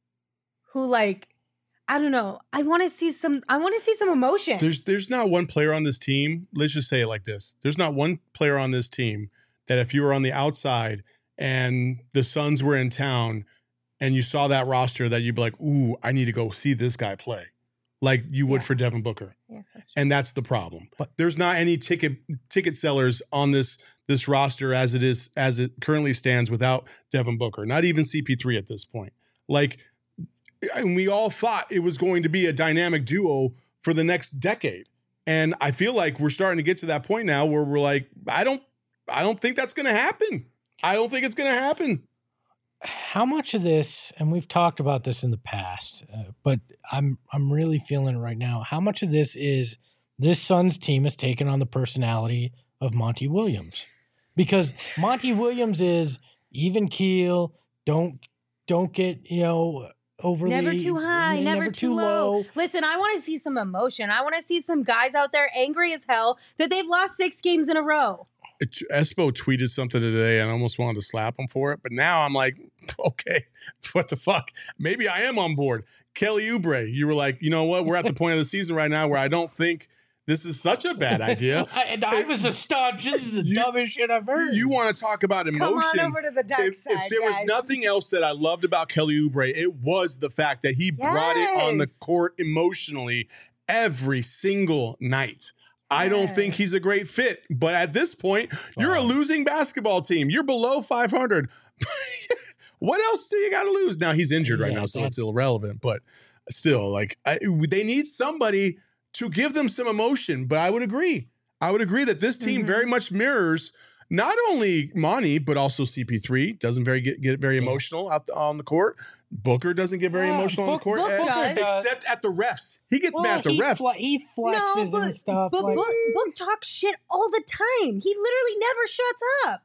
S1: who like, I don't know. I want to see some, I want to see some emotion.
S2: There's there's not one player on this team. Let's just say it like this. There's not one player on this team that if you were on the outside and the Suns were in town and you saw that roster that you'd be like, ooh, I need to go see this guy play. Like you would yeah. for Devin Booker.
S1: Yes, that's true.
S2: And that's the problem. But there's not any ticket ticket sellers on this this roster as it is as it currently stands without Devin Booker. Not even C P three at this point. Like, and we all thought it was going to be a dynamic duo for the next decade. And I feel like we're starting to get to that point now where we're like, I don't I don't think that's going to happen. I don't think it's going to happen.
S3: How much of this, and we've talked about this in the past, uh, but I'm I'm really feeling it right now. How much of this is this Suns team has taken on the personality of Monty Williams? Because Monty Williams is even keel, don't don't get, you know, overly
S1: never too high, never,
S3: never
S1: too,
S3: too
S1: low.
S3: low.
S1: Listen, I want to see some emotion. I want to see some guys out there angry as hell that they've lost six games in a row.
S2: Espo tweeted something today and I almost wanted to slap him for it. But now I'm like, okay, what the fuck? Maybe I am on board. Kelly Oubre, you were like, you know what? We're at the point of the season right now where I don't think this is such a bad idea.
S3: And I was a staunch. This is the you, dumbest shit I've heard.
S2: You want to talk about emotion.
S1: Come on over to the dark
S2: if,
S1: side,
S2: If there
S1: guys.
S2: was nothing else that I loved about Kelly Oubre, it was the fact that he yes. brought it on the court emotionally every single night. I don't think he's a great fit, but at this point, you're wow. a losing basketball team. You're below five hundred. What else do you got to lose? Now he's injured right yeah, now, so it's irrelevant, but still, like I, they need somebody to give them some emotion. But I would agree. I would agree that this team mm-hmm. very much mirrors not only Monty, but also C P three doesn't very get, get very emotional out the, on the court. Booker doesn't get very yeah, emotional
S1: Book,
S2: on the court,
S1: Book
S2: and, except at the refs. He gets
S3: well,
S2: mad at the
S3: he
S2: refs.
S3: Fl- he flexes
S1: no, but,
S3: and stuff.
S1: But
S3: like,
S1: Book, Book talks shit all the time. He literally never shuts up.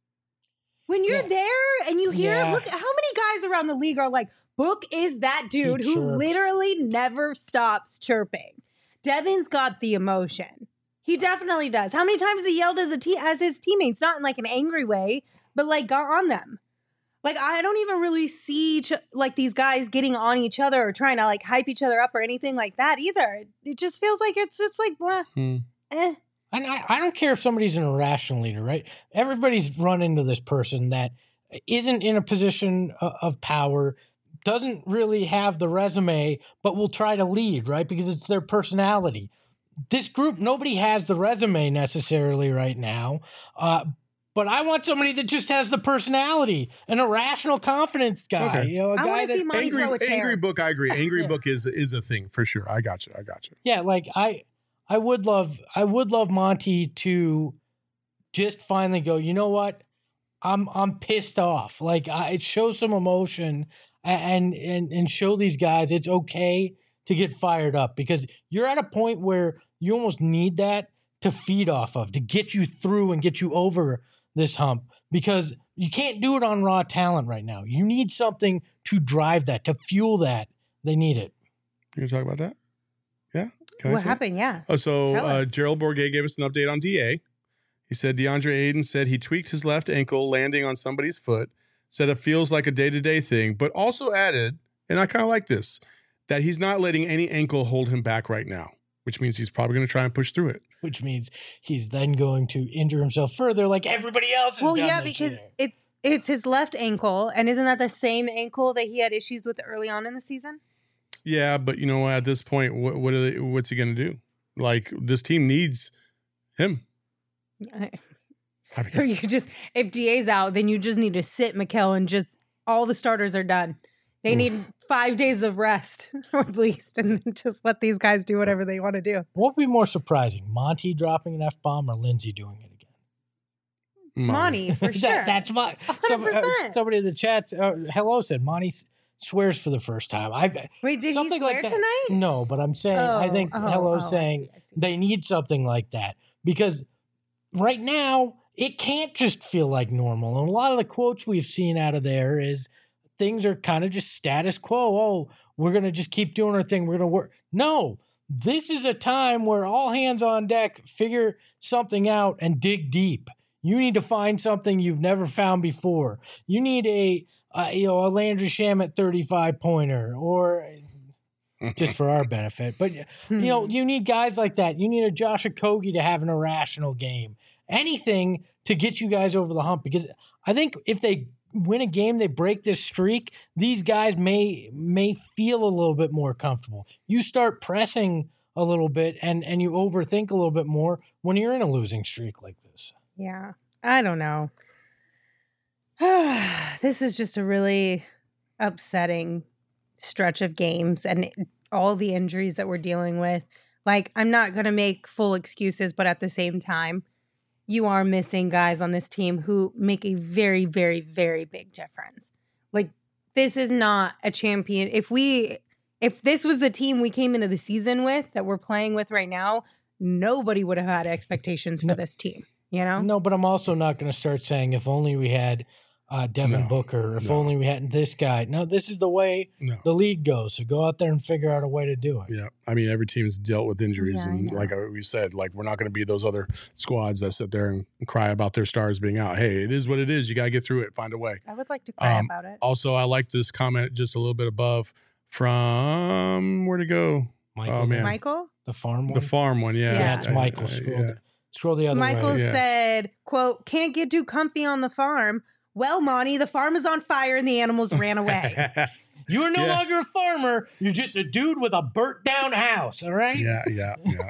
S1: When you're yeah. there and you hear, yeah. look, how many guys around the league are like, Book is that dude he who chirps. literally never stops chirping. Devin's got the emotion. He definitely does. How many times he yelled as a te- as his teammates, not in like an angry way, but like got on them. Like I don't even really see ch- like these guys getting on each other or trying to like hype each other up or anything like that either. It, it just feels like it's it's like blah. Hmm. Eh.
S3: And I, I don't care if somebody's an irrational leader, right? Everybody's run into this person that isn't in a position of, of power, doesn't really have the resume, but will try to lead, right? Because it's their personality. This group, nobody has the resume necessarily right now, uh, but I want somebody that just has the personality, an irrational confidence guy.
S2: Okay.
S3: You know, a
S1: I
S3: guy
S1: that see Monty
S2: angry,
S1: throw a chair.
S2: Angry Book, I agree. Angry
S3: yeah.
S2: Book is is a thing for sure. I got you. I got you.
S3: Yeah, like I, I would love, I would love Monty to just finally go. You know what? I'm I'm pissed off. Like I, it shows some emotion and and and show these guys it's okay to get fired up because you're at a point where you almost need that to feed off of, to get you through and get you over this hump because you can't do it on raw talent right now. You need something to drive that, to fuel that. They need it.
S2: You gonna talk about that? Yeah. Can
S1: what happened? It? Yeah.
S2: Oh, so uh, Gerald Bourguet gave us an update on D A. He said DeAndre Ayton said he tweaked his left ankle landing on somebody's foot, said it feels like a day-to-day thing, but also added, and I kind of like this, that he's not letting any ankle hold him back right now, which means he's probably going to try and push through it.
S3: Which means he's then going to injure himself further like everybody else has
S1: well,
S3: done.
S1: Well, yeah, because year. it's it's his left ankle, and isn't that the same ankle that he had issues with early on in the season?
S2: Yeah, but you know what? At this point, what, what are they, what's he going to do? Like, this team needs him.
S1: I, I mean, or you just, if D A's out, then you just need to sit Mikal and just, all the starters are done. They need five days of rest, at least, and just let these guys do whatever they want to do.
S3: What would be more surprising, Monty dropping an F-bomb or Lindsay doing it again?
S1: Monty, for sure.
S3: that, that's my, some, uh, somebody in the chat, uh, hello, said Monty swears for the first time. I've
S1: Wait, did he swear
S3: like
S1: tonight?
S3: No, but I'm saying,
S1: oh,
S3: I think
S1: oh,
S3: hello
S1: oh,
S3: saying
S1: I see, I see.
S3: They need something like that because right now it can't just feel like normal. And a lot of the quotes we've seen out of there is things are kind of just status quo. Oh, we're going to just keep doing our thing. We're going to work. No, this is a time where all hands on deck, figure something out and dig deep. You need to find something you've never found before. You need a uh, you know, a Landry Shamet thirty-five pointer, or just for our benefit. But, you know, you need guys like that. You need a Josh Okogie to have an irrational game. Anything to get you guys over the hump, because I think if they win a game, they break this streak, these guys may may feel a little bit more comfortable. You start pressing a little bit and, and you overthink a little bit more when you're in a losing streak like this.
S1: Yeah, I don't know. This is just a really upsetting stretch of games and all the injuries that we're dealing with. Like, I'm not going to make full excuses, but at the same time, you are missing guys on this team who make a very, very, very big difference. Like, this is not a champion. If we, if this was the team we came into the season with that we're playing with right now, nobody would have had expectations for
S3: no,
S1: this team, you know?
S3: No, but I'm also not going to start saying if only we had uh, Devin
S2: no,
S3: Booker, if
S2: no.
S3: only we had this guy. No, this is the way
S2: no.
S3: the league goes. So go out there and figure out a way to do it.
S2: Yeah. I mean, every team's dealt with injuries.
S1: Yeah,
S2: and like we said, like we're not going to be those other squads that sit there and cry about their stars being out. Hey, it is what it is. You got to get through it. Find a way.
S1: I would like to cry
S2: um,
S1: about it.
S2: Also, I like this comment just a little bit above from, where'd it go?
S3: Michael,
S2: Oh, man.
S1: Michael?
S3: the farm one?
S2: The farm one. Yeah.
S1: Yeah.
S3: Yeah, it's
S2: Uh,
S3: Michael.
S2: uh,
S3: Scroll,
S2: yeah.
S3: the, scroll the other
S1: Michael
S3: way.
S2: Yeah.
S1: said, quote, can't get too comfy on the farm. Well, Monty, the farm is on fire and the animals ran away.
S3: You are no
S2: Yeah.
S3: longer a farmer. You're just a dude with a burnt down house. All right.
S2: yeah. Yeah. Yeah.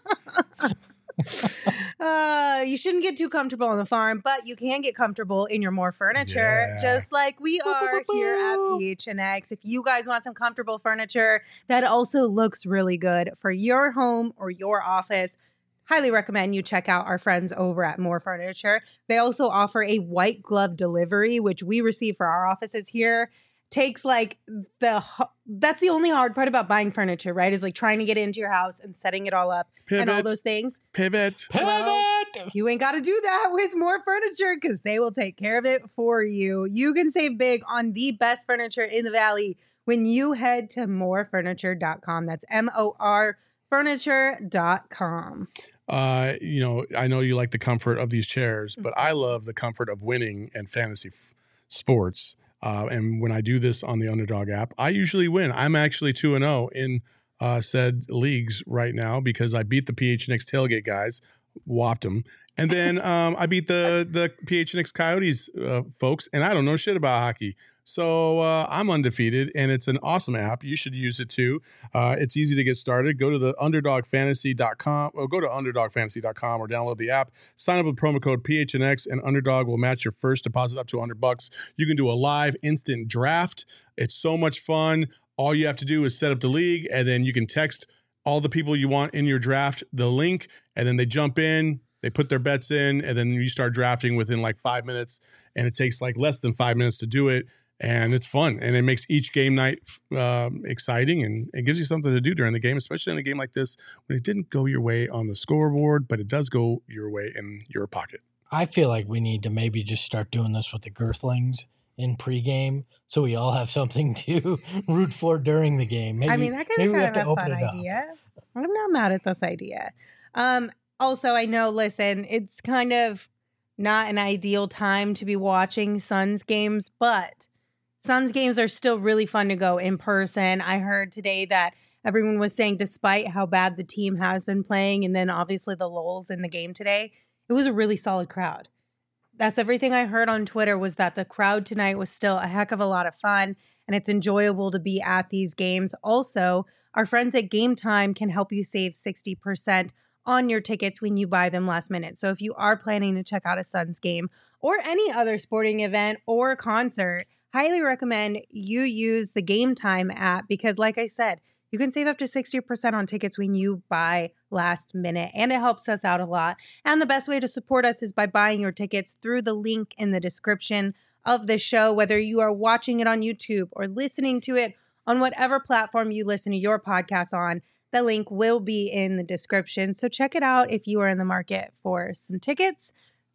S1: uh, you shouldn't get too comfortable on the farm, but you can get comfortable in your more furniture,
S2: Yeah.
S1: just like we are here at P H N X. If you guys want some comfortable furniture that also looks really good for your home or your office, highly recommend you check out our friends over at More Furniture. They also offer a white glove delivery, which we receive for our offices here. Takes like the, that's the only hard part about buying furniture, right? Is like trying to get into your house and setting it all up and all
S2: Pivot.
S1: those things.
S2: Pivot.
S3: Pivot.
S1: Well, you ain't got to do that with More Furniture because they will take care of it for you. You can save big on the best furniture in the Valley when you head to more furniture dot com. That's M O R furniture dot com.
S2: Uh, you know, I know you like the comfort of these chairs, but I love the comfort of winning and fantasy f- sports. Uh, and when I do this on the Underdog app, I usually win. I'm actually two and zero in uh, said leagues right now because I beat the P H N X tailgate guys, whopped them, and then um, I beat the the P H N X Coyotes uh, folks, and I don't know shit about hockey. So uh, I'm undefeated, and it's an awesome app. You should use it too. Uh, it's easy to get started. Go to the underdog fantasy dot com or go to underdog fantasy dot com or download the app. Sign up with promo code P H N X, and Underdog will match your first deposit up to one hundred bucks. You can do a live instant draft. It's so much fun. All you have to do is set up the league, and then you can text all the people you want in your draft the link, and then they jump in. They put their bets in, and then you start drafting within like five minutes, and it takes like less than five minutes to do it. And it's fun, and it makes each game night um, exciting, and it gives you something to do during the game, especially in a game like this when it didn't go your way on the scoreboard, but it does go your way in your pocket.
S3: I feel like we need to maybe just start doing this with the Girthlings in pregame, so we all have something to root for during the game. Maybe,
S1: I mean, that could be
S3: maybe we
S1: kind
S3: have
S1: of
S3: to
S1: a
S3: open
S1: fun
S3: it up.
S1: idea. I'm not mad at this idea. Um, also, I know, listen, it's kind of not an ideal time to be watching Suns games, but Suns games are still really fun to go in person. I heard today that everyone was saying, despite how bad the team has been playing, and then obviously the lulls in the game today, it was a really solid crowd. That's everything I heard on Twitter, was that the crowd tonight was still a heck of a lot of fun, and it's enjoyable to be at these games. Also, our friends at Game Time can help you save sixty percent on your tickets when you buy them last minute. So if you are planning to check out a Suns game or any other sporting event or concert, highly recommend you use the Game Time app because, like I said, you can save up to sixty percent on tickets when you buy last minute, and it helps us out a lot. And the best way to support us is by buying your tickets through the link in the description of the show, whether you are watching it on YouTube or listening to it on whatever platform you listen to your podcast on. The link will be in the description. So check it out if you are in the market for some tickets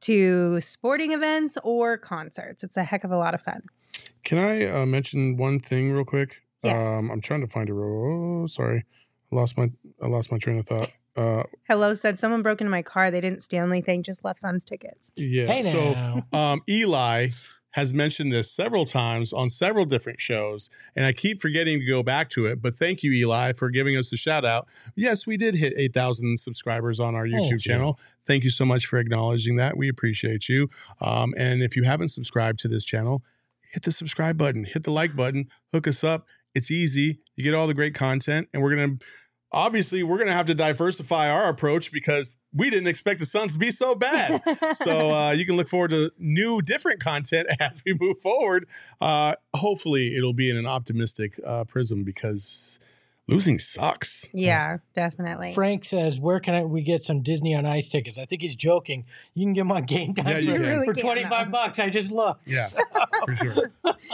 S1: to sporting events or concerts. It's a heck of a lot of fun.
S2: Can I uh, mention one thing real quick?
S1: Yes.
S2: Um, I'm trying to find a row. Oh, sorry. I lost my I lost my train of thought. Uh,
S1: Hello said someone broke into my car. They didn't steal anything, just left Suns tickets.
S2: yeah.
S3: Hey
S2: so
S3: now.
S2: um, Eli has mentioned this several times on several different shows, and I keep forgetting to go back to it. But thank you, Eli, for giving us the shout out. Yes, we did hit eight thousand subscribers on our YouTube
S3: Thank you.
S2: channel. Thank you so much for acknowledging that. We appreciate you. Um, and if you haven't subscribed to this channel, hit the subscribe button, hit the like button, hook us up. It's easy. You get all the great content, and we're going to obviously we're going to have to diversify our approach because we didn't expect the Suns to be so bad. So uh, you can look forward to new, different content as we move forward. Uh, hopefully it'll be in an optimistic uh, prism because losing sucks.
S1: Yeah, definitely.
S3: Frank says, where can I, we get some Disney on Ice tickets? I think he's joking. You can get them on Game Time
S2: Yeah, you
S3: for,
S2: can.
S1: Really
S3: for
S1: can,
S3: twenty-five
S1: though.
S3: bucks. I just looked.
S2: Yeah, for sure.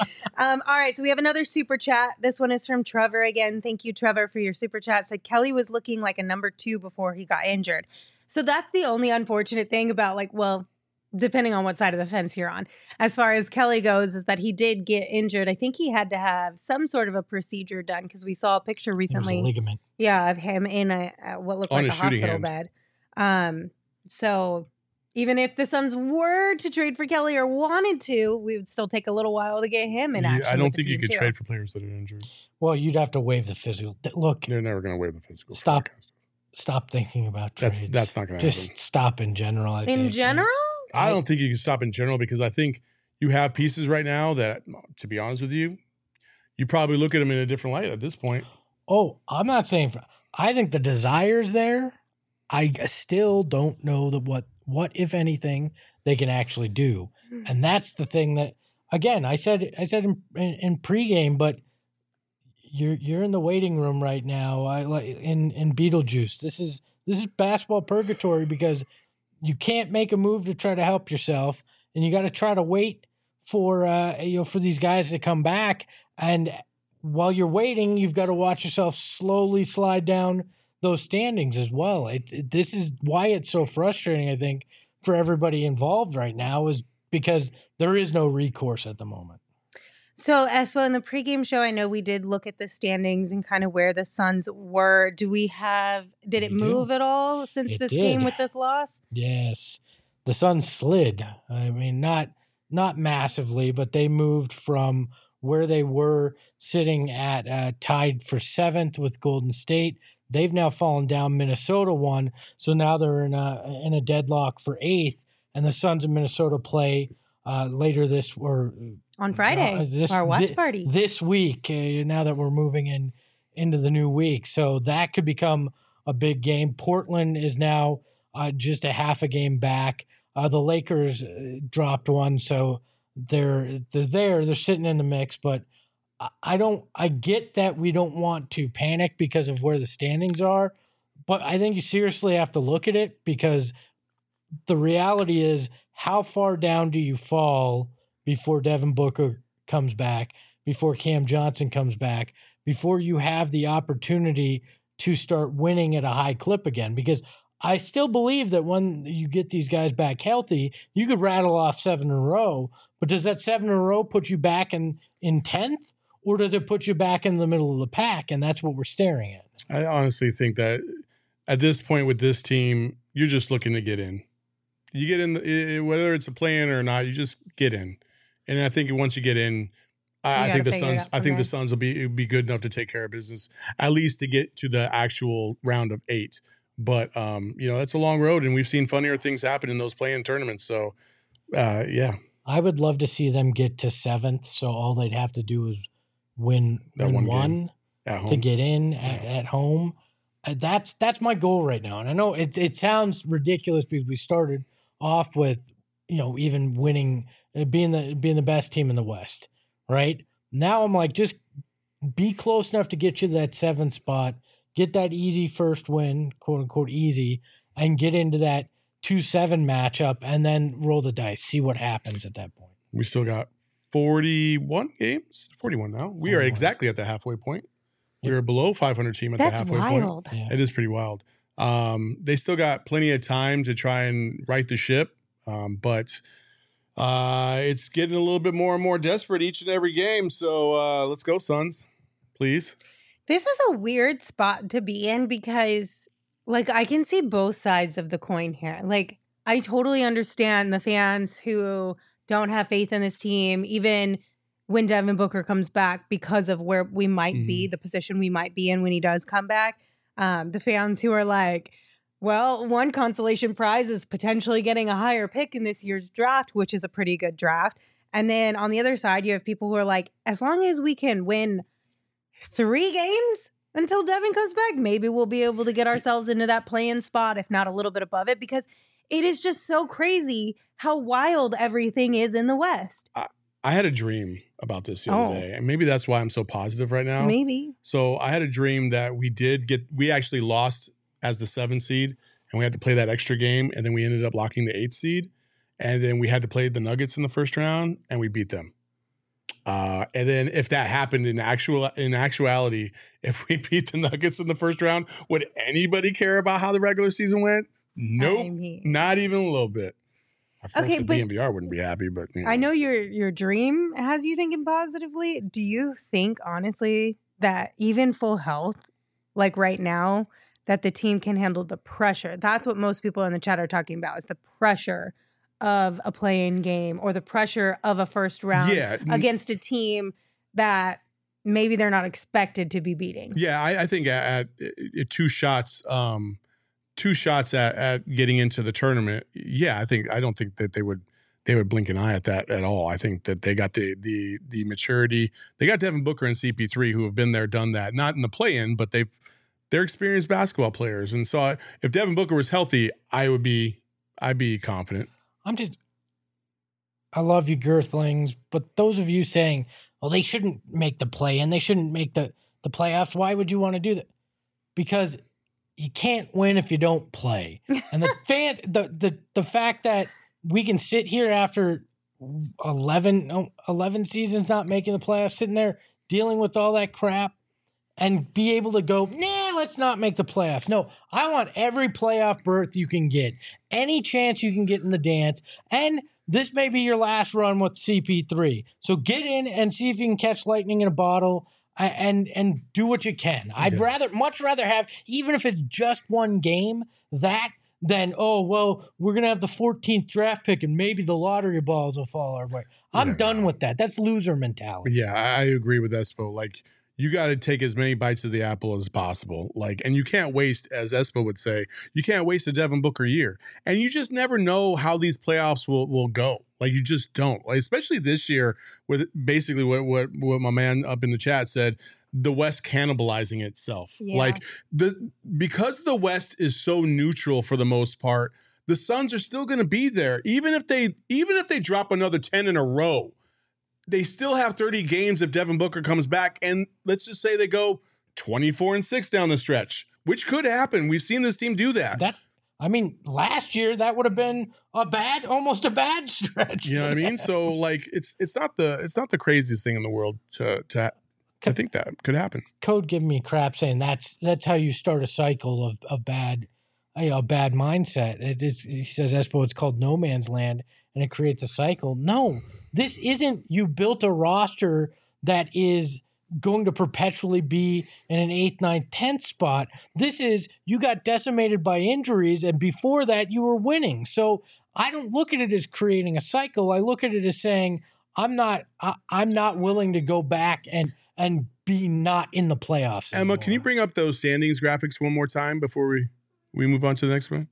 S1: Um, all right, so we have another super chat. This one is from Trevor again. Thank you, Trevor, for your super chat. Said Kelly was looking like a number two before he got injured. So that's the only unfortunate thing about, like, well, depending on what side of the fence you're on, as far as Kelly goes, is that he did get injured. I think he had to have some sort of a procedure done because we saw a picture
S3: It was a
S1: recently.
S3: ligament.
S1: Yeah, of him in a, a what looked
S2: On
S1: like a
S2: his shooting
S1: hospital
S2: hand.
S1: bed. Um, so even if the Suns were to trade for Kelly or wanted to, we would still take a little while to get him in
S2: You-
S1: action.
S2: I don't
S1: with the
S2: think you
S1: team,
S2: could
S1: too.
S2: trade for players that are injured.
S3: Well, you'd have to waive the physical. Th- Look,
S2: They're never going to waive the physical.
S3: Stop.
S2: forecast.
S3: stop thinking about trades.
S2: That's that's not going to
S3: Just
S2: happen.
S3: stop in general. I
S1: In
S3: think.
S1: general,
S2: I don't think you can stop in general because I think you have pieces right now that, to be honest with you, you probably look at them in a different light at this point.
S3: Oh, I'm not saying. For, I think the desire's there. I still don't know that what what if anything they can actually do, and that's the thing that again I said I said in, in, in pregame, but you're you're in the waiting room right now. I like in in Beetlejuice. This is this is basketball purgatory because you can't make a move to try to help yourself, and you got to try to wait for uh you know for these guys to come back. And while you're waiting, you've got to watch yourself slowly slide down those standings as well. It, it this is why it's so frustrating, I think, for everybody involved right now, is because there is no recourse at the moment.
S1: so Espo, in the pregame show, I know we did look at the standings and kind of where the Suns were. Do we have? Did it
S3: We do.
S1: move at all since
S3: It
S1: this
S3: did.
S1: game with this loss?
S3: Yes, the Suns slid. I mean, not not massively, but they moved from where they were sitting at uh, tied for seventh with Golden State. They've now fallen down. Minnesota won, so now they're in a in a deadlock for eighth. And the Suns and Minnesota play uh, later this or
S1: On Friday,
S3: uh, this-
S1: our watch
S3: thi-
S1: party.
S3: this week. Uh, now that we're moving in into the new week, so that could become a big game. Portland is now uh, just a half a game back. Uh, the Lakers uh, dropped one, so they're they're there. They're sitting in the mix, but I- I don't. I get that we don't want to panic because of where the standings are, but I think you seriously have to look at it because the reality is, how far down do you fall before Devin Booker comes back, before Cam Johnson comes back, before you have the opportunity to start winning at a high clip again? Because I still believe that when you get these guys back healthy, you could rattle off seven in a row, but does that seven in a row put you back in, in tenth, or does it put you back in the middle of the pack? And that's what we're staring at.
S2: I honestly think that at this point with this team, you're just looking to get in. You get in, the, whether it's a play-in or not, you just get in. And I think once you get in, I, I
S1: You
S2: think the
S1: gotta figure it
S2: Suns.
S1: out
S2: I
S1: from
S2: think the
S1: there.
S2: Suns will be be good enough to take care of business, at least to get to the actual round of eight. But um, you know, that's a long road, and we've seen funnier things happen in those play-in tournaments. So, uh, yeah,
S3: I would love to see them get to seventh, so all they'd have to do is win,
S2: That
S3: win
S2: one
S3: one,
S2: game at home.
S3: to get in at, at home. Uh, that's that's my goal right now. And I know it it sounds ridiculous because we started off with, you know, even winning, uh, being the being the best team in the West, right? Now I'm like, just be close enough to get you to that seventh spot, get that easy first win, quote unquote easy, and get into that two seven matchup, and then roll the dice, see what happens at that point.
S2: We still got forty-one games. forty-one now. We are
S3: forty-one.
S2: exactly at the halfway point. We
S3: Yep.
S2: are below five hundred team at the
S1: That's
S2: halfway point.
S1: wild.
S3: Yeah.
S2: It is pretty wild. Um, they still got plenty of time to try and right the ship, um, but uh, it's getting a little bit more and more desperate each and every game. So uh, let's go, Suns, please.
S1: This is a weird spot to be in because, like, I can see both sides of the coin here. Like, I totally understand the fans who don't have faith in this team, even when Devin Booker comes back, because of where we might mm-hmm. be, the position we might be in when he does come back. Um, the fans who are like, well, one consolation prize is potentially getting a higher pick in this year's draft, which is a pretty good draft. And then on the other side, you have people who are like, as long as we can win three games until Devin comes back, maybe we'll be able to get ourselves into that play-in spot, if not a little bit above it, because it is just so crazy how wild everything is in the West.
S2: I, I had a dream about this the other oh. day, and maybe that's why I'm so positive right now.
S1: Maybe.
S2: So I had a dream that we did get, we actually lost as the seventh seed, and we had to play that extra game, and then we ended up locking the eighth seed, and then we had to play the Nuggets in the first round, and we beat them. Uh, and then if that happened in actual in actuality, if we beat the Nuggets in the first round, would anybody care about how the regular season went? Nope, I mean, not even a little bit. Our folks okay, at D N V R wouldn't be happy, but you know.
S1: I know your your dream has you thinking positively. Do you think honestly that even full health, like right now, that the team can handle the pressure? That's what most people in the chat are talking about, is the pressure of a play-in game or the pressure of a first round yeah. against a team that maybe they're not expected to be beating.
S2: Yeah, I, I think at, at, at two shots, um, two shots at, at getting into the tournament. Yeah, I think I don't think that they would they would blink an eye at that at all. I think that they got the the the maturity. They got Devin Booker and C P three who have been there, done that. Not in the play-in, but they've they're experienced basketball players. And so I, if Devin Booker was healthy, I would be I'd be confident.
S3: I'm just, I love you, Girthlings, but those of you saying, well, they shouldn't make the play and they shouldn't make the, the playoffs, why would you want to do that? Because you can't win if you don't play. And the fan, the, the, the fact that we can sit here after eleven, eleven seasons not making the playoffs, sitting there dealing with all that crap and be able to go, nah, let's not make the playoffs. No, I want every playoff berth you can get, any chance you can get in the dance, and this may be your last run with C P three. So get in and see if you can catch lightning in a bottle and and do what you can. I'd yeah. rather, much rather have, even if it's just one game, that than, oh, well, we're going to have the fourteenth draft pick and maybe the lottery balls will fall our way. I'm yeah. done with that. That's loser mentality.
S2: Yeah, I agree with Espo. Like, you got to take as many bites of the apple as possible. Like, and you can't waste, as Espo would say, you can't waste a Devin Booker year. And you just never know how these playoffs will, will go. Like, you just don't. Like, especially this year with basically what, what, what my man up in the chat said, the West cannibalizing itself. Yeah. Like, the because the West is so neutral for the most part, the Suns are still going to be there. Even if they even if they drop another ten in a row, they still have thirty games if Devin Booker comes back. And let's just say they go twenty-four and six down the stretch, which could happen. We've seen this team do that.
S3: That I mean, last year that would have been a bad, almost a bad stretch.
S2: You know what I mean? So like, it's it's not the it's not the craziest thing in the world to to I think that could happen.
S3: Code giving me crap saying that's that's how you start a cycle of of bad, you know, a bad mindset. It is, he says, Espo, it's called no man's land, and it creates a cycle. No, this isn't. You built a roster that is going to perpetually be in an eighth, ninth, tenth spot. This is, you got decimated by injuries, and before that, you were winning. So I don't look at it as creating a cycle. I look at it as saying, I'm not, I, I'm not willing to go back and and be not in the playoffs anymore.
S2: Emma, can you bring up those standings graphics one more time before we, we move on to the next one?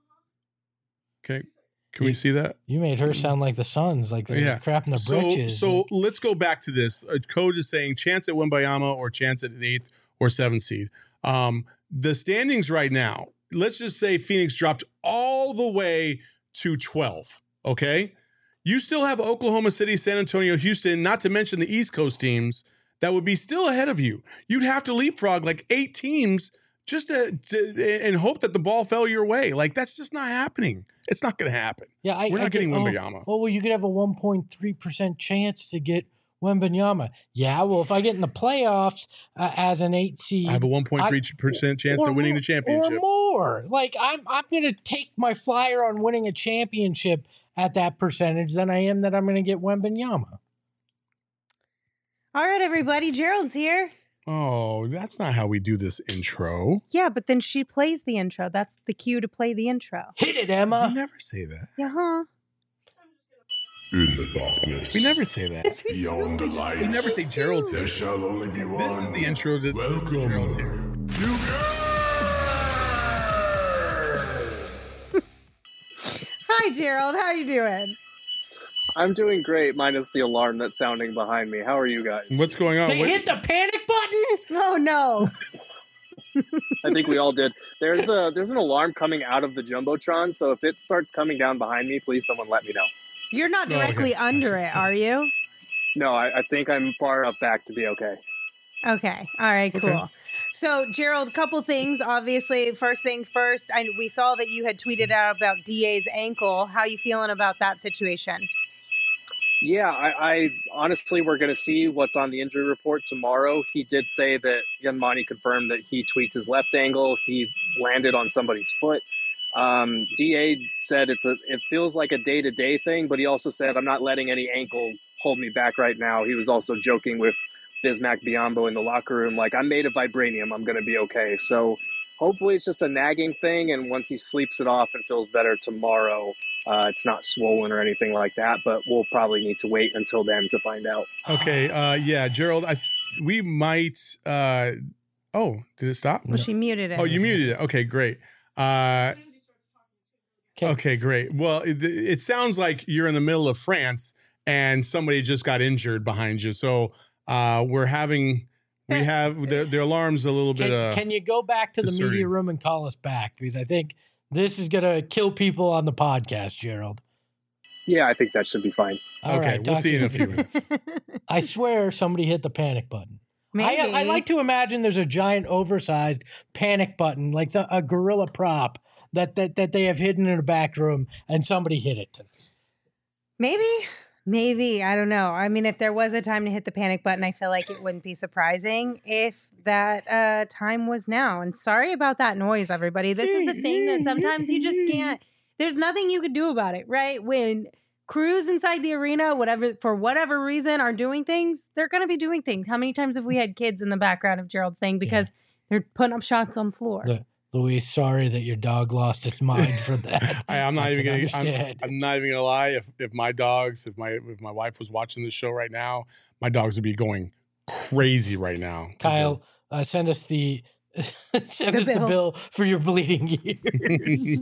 S2: Okay. Can you, we see that?
S3: You made her sound like the Suns, like they're yeah. crapping the
S2: so,
S3: britches.
S2: So let's go back to this. Uh, Code is saying chance at Wembanyama or chance at an eighth or seventh seed. Um, the standings right now, let's just say Phoenix dropped all the way to twelve, okay? You still have Oklahoma City, San Antonio, Houston, not to mention the East Coast teams that would be still ahead of you. You'd have to leapfrog like eight teams just to, to and hope that the ball fell your way. Like, that's just not happening. It's not going to happen.
S3: Yeah, I,
S2: We're not
S3: I
S2: getting
S3: get,
S2: Wembanyama.
S3: Oh, well, you could have a one point three percent chance to get Wembanyama. Yeah, well, if I get in the playoffs uh, as an eight seed,
S2: I have a one point three percent chance of winning the championship.
S3: Or more. Like, I'm, I'm going to take my flyer on winning a championship at that percentage than I am that I'm going to get Wembanyama.
S1: All right, everybody. Gerald's here.
S2: Oh, that's not how we do this intro.
S1: Yeah, but then she plays the intro. That's the cue to play the intro.
S3: Hit it, Emma.
S2: You never say that.
S1: Yeah, huh?
S4: In the darkness,
S2: We never say that.
S1: Yes, we do.
S4: beyond the light,
S2: We never say Gerald's here.
S4: there shall only be one.
S2: This is the intro to
S4: Welcome.
S2: Gerald's here.
S4: You
S1: Hi, Gerald. How you doing?
S5: I'm doing great, minus the alarm that's sounding behind me. How are you guys?
S2: What's going on?
S3: They
S2: What-
S3: hit the panic button.
S1: Oh no.
S5: I think we all did. There's a there's an alarm coming out of the jumbotron, so if it starts coming down behind me, please someone let me know.
S1: You're not
S2: Oh, okay.
S1: directly under it, are you?
S5: No, I, I think I'm far enough back to be okay.
S1: Okay. All right,
S2: Okay.
S1: cool. So, Gerald, couple things. Obviously, first thing first, I, we saw that you had tweeted out about D A's ankle. How you feeling about that situation?
S5: Yeah, I, I honestly we're gonna see what's on the injury report tomorrow. He did say that Yanmani confirmed that he tweaked his left ankle. He landed on somebody's foot. Um, D A said it's a it feels like a day to day thing, but he also said I'm not letting any ankle hold me back right now. He was also joking with Bismack Biyombo in the locker room, like I'm made of vibranium. I'm gonna be okay. So hopefully it's just a nagging thing, and once he sleeps it off and feels better tomorrow, uh, it's not swollen or anything like that. But we'll probably need to wait until then to find out.
S2: Okay. Uh, yeah, Gerald. I we might. Uh, oh, did it stop?
S1: Well, she muted it.
S2: Oh, you muted it. Okay, great. Uh,
S3: Okay.
S2: okay, great. Well, it, it sounds like you're in the middle of France and somebody just got injured behind you. So uh, we're having we have the, the alarm's a little
S3: Can,
S2: bit. Uh,
S3: can you go back to the
S2: discerning.
S3: media room and call us back? Because I think this is going to kill people on the podcast, Gerald.
S5: Yeah, I think that should be fine.
S3: All
S2: okay,
S3: right,
S2: we'll
S3: talk
S2: see
S3: to
S2: you in a few minutes.
S3: I swear somebody hit the panic button.
S1: Maybe.
S3: I, I like to imagine there's a giant, oversized panic button, like so- a gorilla prop that, that that they have hidden in a back room, and somebody hit it.
S1: Maybe. Maybe. I don't know. I mean, if there was a time to hit the panic button, I feel like it wouldn't be surprising if that uh, time was now. And sorry about that noise, everybody. This is the thing that sometimes you just can't, there's nothing you could do about it, right? When crews inside the arena, whatever, for whatever reason, are doing things, they're going to be doing things. How many times have we had kids in the background of Gerald's thing because they're putting up shots on the floor?
S3: The, Louise, sorry that your dog lost its mind for that.
S2: I, I'm not
S3: I
S2: even
S3: can
S2: gonna. I'm,
S3: understand.
S2: I'm not even gonna lie. If if my dogs, if my if my wife was watching this show right now, my dogs would be going crazy right now.
S3: Kyle, uh, send us the send
S1: The
S3: us
S1: bill.
S3: the bill for your bleeding ears.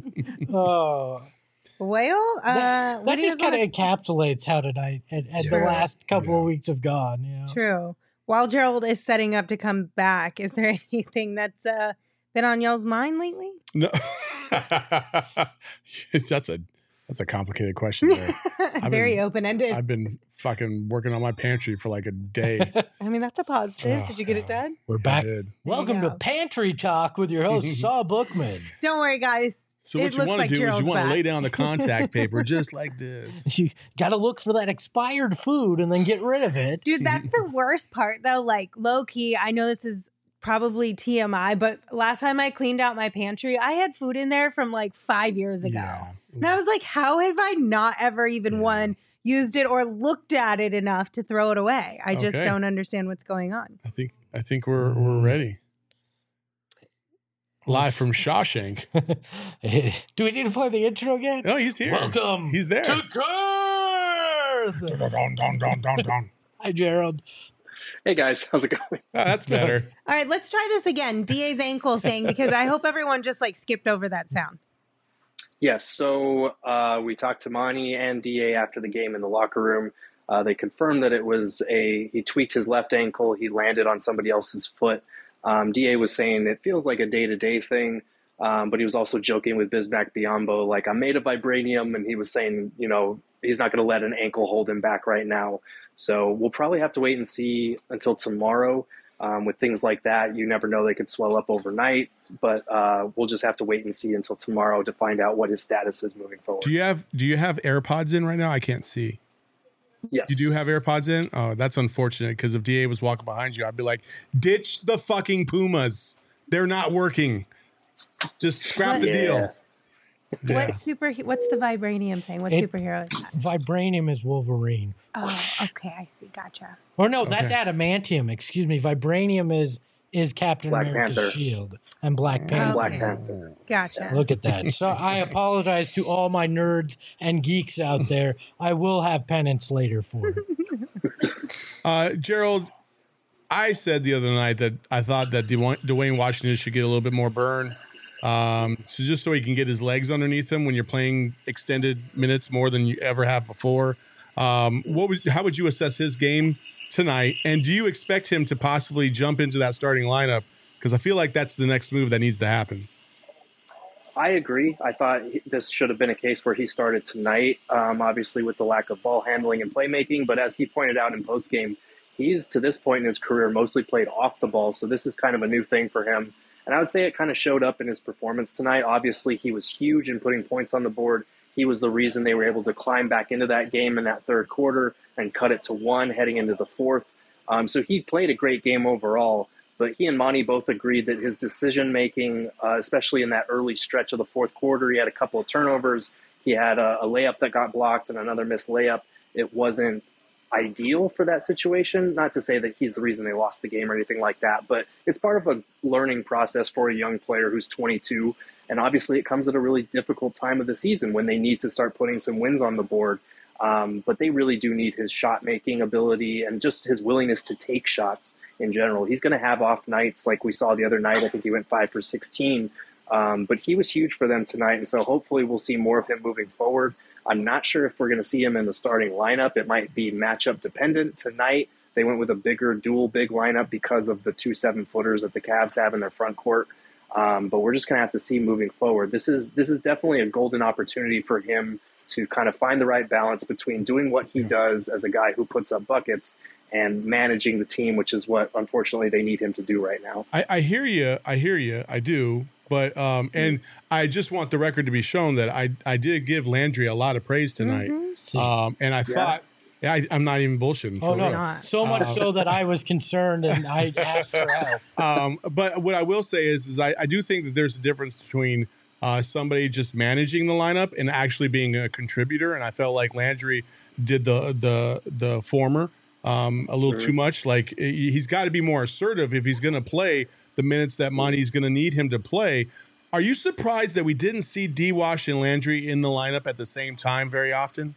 S3: oh,
S1: Well, uh,
S3: that,
S1: what
S3: that
S1: do you
S3: just
S1: guys
S3: kind
S1: wanna-
S3: of encapsulates how tonight and, and the
S1: True.
S3: last couple
S2: Yeah.
S3: of weeks have gone. You know?
S1: True. While Gerald is setting up to come back, is there anything that's uh, been on y'all's mind lately?
S2: No, that's a that's a complicated question. There.
S1: Very
S2: been-
S1: open ended.
S2: I've been fucking working on my pantry for like a day.
S1: I mean, that's a positive.
S2: Oh,
S1: Did you get it
S2: God.
S1: done?
S3: We're
S2: I
S3: back.
S2: did.
S3: Welcome
S1: go.
S3: to Pantry Talk with your host Saul Bookman.
S1: Don't worry, guys.
S2: So
S1: It
S2: what you
S1: looks
S2: want to
S1: like
S2: do is
S1: Gerald's
S2: you want to
S1: back.
S2: lay down the contact paper just like this.
S3: You got to look for that expired food and then get rid of it.
S1: Dude, that's the worst part, though. Like, low key, I know this is probably T M I, but last time I cleaned out my pantry, I had food in there from like five years ago.
S2: Yeah.
S1: And I was like, how have I not ever even
S2: Yeah.
S1: one used it or looked at it enough to throw it away? I just
S2: Okay.
S1: don't understand what's going on.
S2: I think I think we're we're ready. Live
S3: Let's-
S2: from Shawshank.
S3: Do we need to play the intro again?
S2: Oh, he's here.
S3: Welcome.
S2: He's there.
S3: to Curse.
S2: Dun, dun, dun, dun, dun.
S3: Hi, Gerald.
S5: Hey guys, how's it going?
S2: Oh, that's better.
S1: All right, let's try this again. D A's ankle thing, because I hope everyone just like skipped over that sound.
S5: Yes, so uh, we talked to Monty and D A after the game in the locker room. Uh, they confirmed that it was a he tweaked his left ankle. He landed on somebody else's foot. Um, D A was saying it feels like a day-to-day thing, um, but he was also joking with Bismack Biyombo, like, I'm made of vibranium, and he was saying, you know, he's not going to let an ankle hold him back right now. So we'll probably have to wait and see until tomorrow. Um, with things like that, you never know, they could swell up overnight, but uh, we'll just have to wait and see until tomorrow to find out what his status is moving forward.
S2: Do you have do you have AirPods in right now? I can't see.
S5: Yes.
S2: You do have AirPods in? Oh, that's unfortunate because if D A was walking behind you, I'd be like, ditch the fucking Pumas. They're not working. Just scrap the
S5: Yeah.
S2: deal. Yeah.
S1: What super? What's the vibranium thing? What
S3: It-
S1: superhero is that?
S3: Vibranium is Wolverine.
S1: Oh, okay, I see. Gotcha.
S3: Or no, that's
S2: Okay.
S3: adamantium. Excuse me. Vibranium is is Captain
S5: Black
S3: America's
S5: Panther.
S3: shield and Black Panther.
S5: And Black
S1: Okay.
S5: Panther.
S1: Gotcha.
S3: Look at that. So I apologize to all my nerds and geeks out there. I will have penance later for it.
S2: Uh, Gerald, I said the other night that I thought that Dwayne Dwayne Washington should get a little bit more burn. Um, so just so he can get his legs underneath him when you're playing extended minutes more than you ever have before. Um, what would, how would you assess his game tonight? And do you expect him to possibly jump into that starting lineup? Because I feel like that's the next move that needs to happen.
S5: I agree. I thought he- this should have been a case where he started tonight, um, obviously with the lack of ball handling and playmaking. But as he pointed out in postgame, he's to this point in his career mostly played off the ball. So this is kind of a new thing for him. And I would say it kind of showed up in his performance tonight. Obviously, he was huge in putting points on the board. He was the reason they were able to climb back into that game in that third quarter and cut it to one heading into the fourth. Um, so he played a great game overall. But he and Monty both agreed that his decision-making, uh, especially in that early stretch of the fourth quarter, he had a couple of turnovers. He had a, a layup that got blocked and another missed layup. It wasn't ideal for that situation. Not to say that he's the reason they lost the game or anything like that, but it's part of a learning process for a young player who's twenty-two. And obviously it comes at a really difficult time of the season when they need to start putting some wins on the board. Um, but they really do need his shot-making ability and just his willingness to take shots in general. He's going to have off nights like we saw the other night. I think he went five for sixteen. Um, but he was huge for them tonight, and so hopefully we'll see more of him moving forward. I'm not sure if we're going to see him in the starting lineup. It might be matchup dependent. Tonight they went with a bigger dual big lineup because of the two seven-footers that the Cavs have in their front court. Um, but we're just going to have to see moving forward. This is this is definitely a golden opportunity for him to kind of find the right balance between doing what he does as a guy who puts up buckets and managing the team, which is what, unfortunately, they need him to do right now.
S2: I, I hear you. I hear you. I do. But, um, and I just want the record to be shown that I, I did give Landry a lot um, tonight.
S3: See.
S2: Um, and I thought, yeah, I, I'm not even bullshitting.
S3: Oh,
S2: for
S3: no.
S2: real.
S1: not.
S3: So much
S2: Uh,
S3: so that I was concerned and I asked for help.
S2: Um, but what I will say is, is I, I do think that there's a difference between uh, somebody just managing the lineup and actually being a contributor. And I felt like Landry did the the the former um, a little too much. Like he- he's got to be more assertive if he's going to play the minutes that Monty's going to need him to play. Are you surprised that we didn't see D-Wash and Landry in the lineup at the same time very often?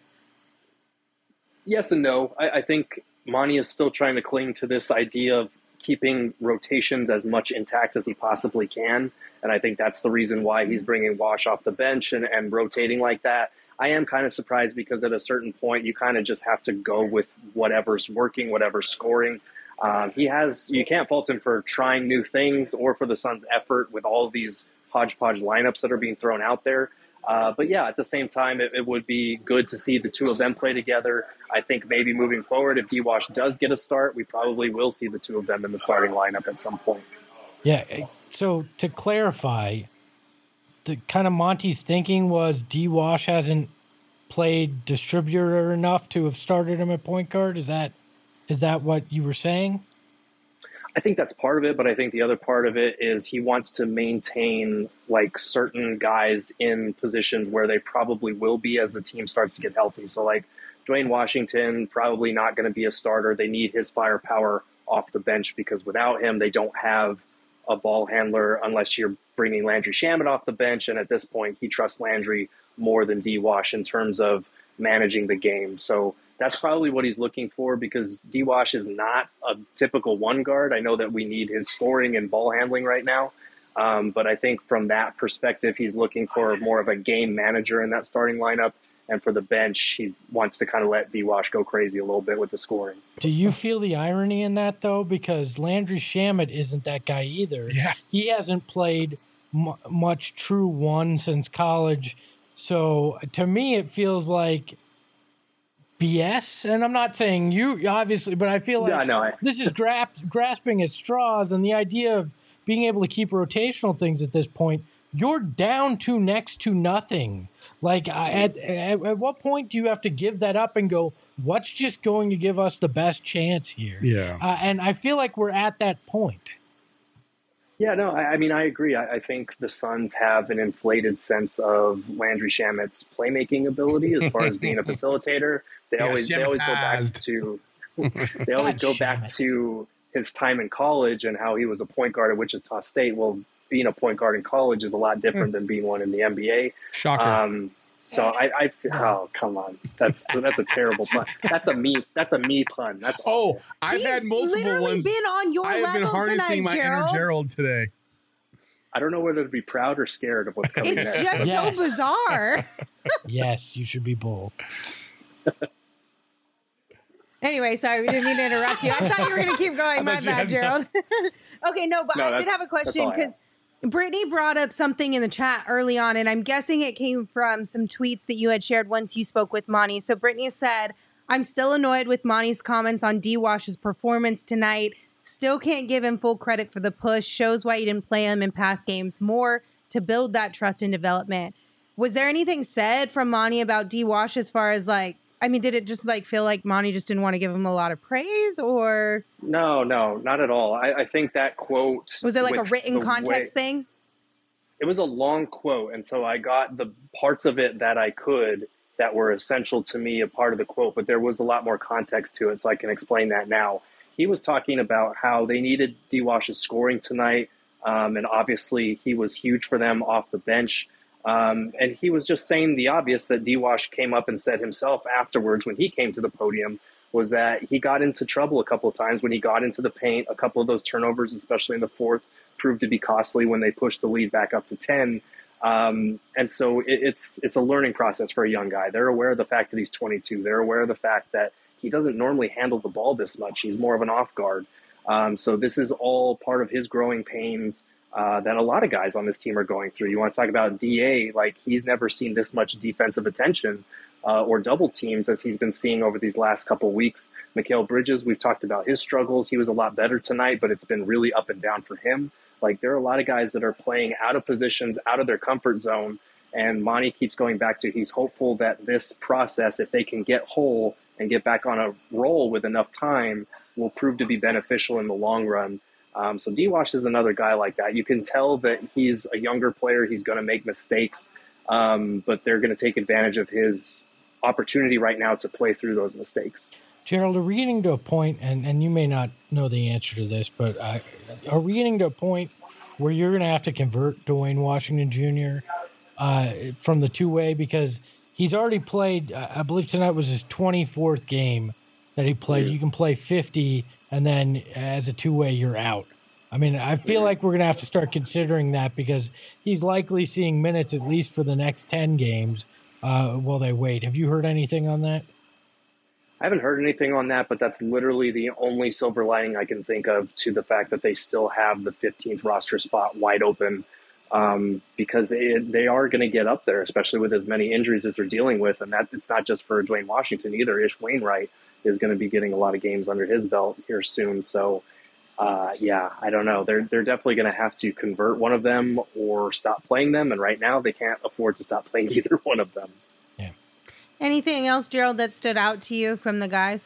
S5: Yes and no. I, I think Monty is still trying to cling to this idea of keeping rotations as much intact as he possibly can. And I think that's the reason why he's bringing Wash off the bench and, and rotating like that. I am kind of surprised because at a certain point, you kind of just have to go with whatever's working, whatever's scoring. Um, he has, you can't fault him for trying new things or for the Suns' effort with all of these hodgepodge lineups that are being thrown out there. Uh, but yeah, at the same time, it, it would be good to see the two of them play together. I think maybe moving forward, if D-Wash does get a start, we probably will see the two of them in the starting lineup at some point.
S3: Yeah. So to clarify, the kind of Monty's thinking was D-Wash hasn't played distributor enough to have started him at point guard. Is that is that what you were saying?
S5: I think that's part of it, but I think the other part of it is he wants to maintain like certain guys in positions where they probably will be as the team starts to get healthy. So like Dwayne Washington, probably not going to be a starter. They need his firepower off the bench because without him, they don't have a ball handler unless you're bringing Landry Shamet off the bench. And at this point, he trusts Landry more than D-Wash in terms of managing the game. So that's probably what he's looking for because D-Wash is not a typical one guard. I know that we need his scoring and ball handling right now. Um, but I think from that perspective, he's looking for more of a game manager in that starting lineup. And for the bench, he wants to kind of let D-Wash go crazy a little bit with the scoring.
S3: Do you feel the irony in that, though? Because Landry Shamet isn't that guy either.
S2: Yeah.
S3: He hasn't played m- much true one since college. So to me, it feels like B S. And I'm not saying you, obviously, but I feel like
S5: Yeah, no, I-
S3: this is gra- grasping at straws. And the idea of being able to keep rotational things at this point, you're down to next to nothing. Like, I- at, at, at what point do you have to give that up and go, what's just going to give us the best chance here?
S2: Yeah.
S3: Uh, and I feel like we're at that point.
S5: Yeah, no, I, I mean, I agree. I, I think the Suns have an inflated sense of Landry Shamet's playmaking ability as far as being a facilitator. They
S2: Yeah,
S5: always they always go back
S2: Shametized.
S5: to they always
S3: God,
S5: go back
S3: Shamet.
S5: to his time in college and how he was a point guard at Wichita State. Well, being a point guard in college is a lot different than being one in the N B A.
S2: Shocker.
S5: Um, so I, I, oh come on, that's that's a terrible pun. That's a me. That's a me pun. That's
S2: oh, I've
S1: He's
S2: had multiple
S1: literally
S2: ones.
S1: been on your
S2: I have been
S1: level
S2: harnessing
S1: tonight,
S2: my
S1: Gerald.
S2: inner Gerald today.
S5: I don't know whether to be proud or scared of what's coming
S1: It's
S5: next.
S1: just
S3: Yes.
S1: so bizarre.
S3: Yes, you should be both.
S1: Anyway, sorry, we didn't mean to interrupt you. I thought you were going to keep going. My
S2: thought you
S1: bad,
S2: had
S1: Gerald. Okay, no, but
S5: No,
S1: I did
S5: that's-
S1: have a question
S5: that's all I
S1: because Brittany brought up something in the chat early on, and I'm guessing it came from some tweets that you had shared once you spoke with Monty. So Brittany said, I'm still annoyed with Monty's comments on D-Wash's performance tonight. Still can't give him full credit for the push. Shows why you didn't play him in past games more to build that trust and development. Was there anything said from Monty about D-Wash as far as like, I mean, did it just like feel like Monty just didn't want to give him a lot of praise, or
S5: No, no, not at all. I, I think that quote
S1: was it like a
S5: with
S1: written
S5: the
S1: context
S5: way-
S1: thing?
S5: It was a long quote, and so I got the parts of it that I could that were essential to me, a part of the quote, but there was a lot more context to it, so I can explain that now. He was talking about how they needed D-Wash's scoring tonight, um, and obviously he was huge for them off the bench. Um, and he was just saying the obvious that D-Wash came up and said himself afterwards when he came to the podium, was that he got into trouble a couple of times when he got into the paint. A couple of those turnovers, especially in the fourth, proved to be costly when they pushed the lead back up to ten. Um, and so it, it's it's a learning process for a young guy. They're aware of the fact that he's twenty-two. They're aware of the fact that he doesn't normally handle the ball this much. He's more of an off guard. Um, so this is all part of his growing pains uh, that a lot of guys on this team are going through. You want to talk about D A, like he's never seen this much defensive attention uh, or double teams as he's been seeing over these last couple of weeks. Mikal Bridges, we've talked about his struggles. He was a lot better tonight, but it's been really up and down for him. Like there are a lot of guys that are playing out of positions, out of their comfort zone. And Monty keeps going back to he's hopeful that this process, if they can get whole and get back on a roll with enough time, will prove to be beneficial in the long run. Um, so D-Wash is another guy like that. You can tell that he's a younger player. He's going to make mistakes, um, but they're going to take advantage of his opportunity right now to play through those mistakes.
S3: Gerald, are we getting to a point, and, and you may not know the answer to this, but uh, are we getting to a point where you're going to have to convert Dwayne Washington Junior uh, from the two-way? Because he's already played, I believe tonight was his twenty-fourth game that he played. You can play fifty, and then as a two-way, you're out. I mean, I feel like we're going to have to start considering that because he's likely seeing minutes at least for the next ten games uh, while they wait. Have you heard anything on that?
S5: I haven't heard anything on that, but that's literally the only silver lining I can think of to the fact that they still have the fifteenth roster spot wide open, um, because it, they are going to get up there, especially with as many injuries as they're dealing with. And that it's not just for Dwayne Washington either. Ish Wainwright is going to be getting a lot of games under his belt here soon. So, uh, yeah, I don't know. They're, they're definitely going to have to convert one of them or stop playing them. And right now they can't afford to stop playing either one of them.
S1: Anything else, Gerald, that stood out to you from the guys?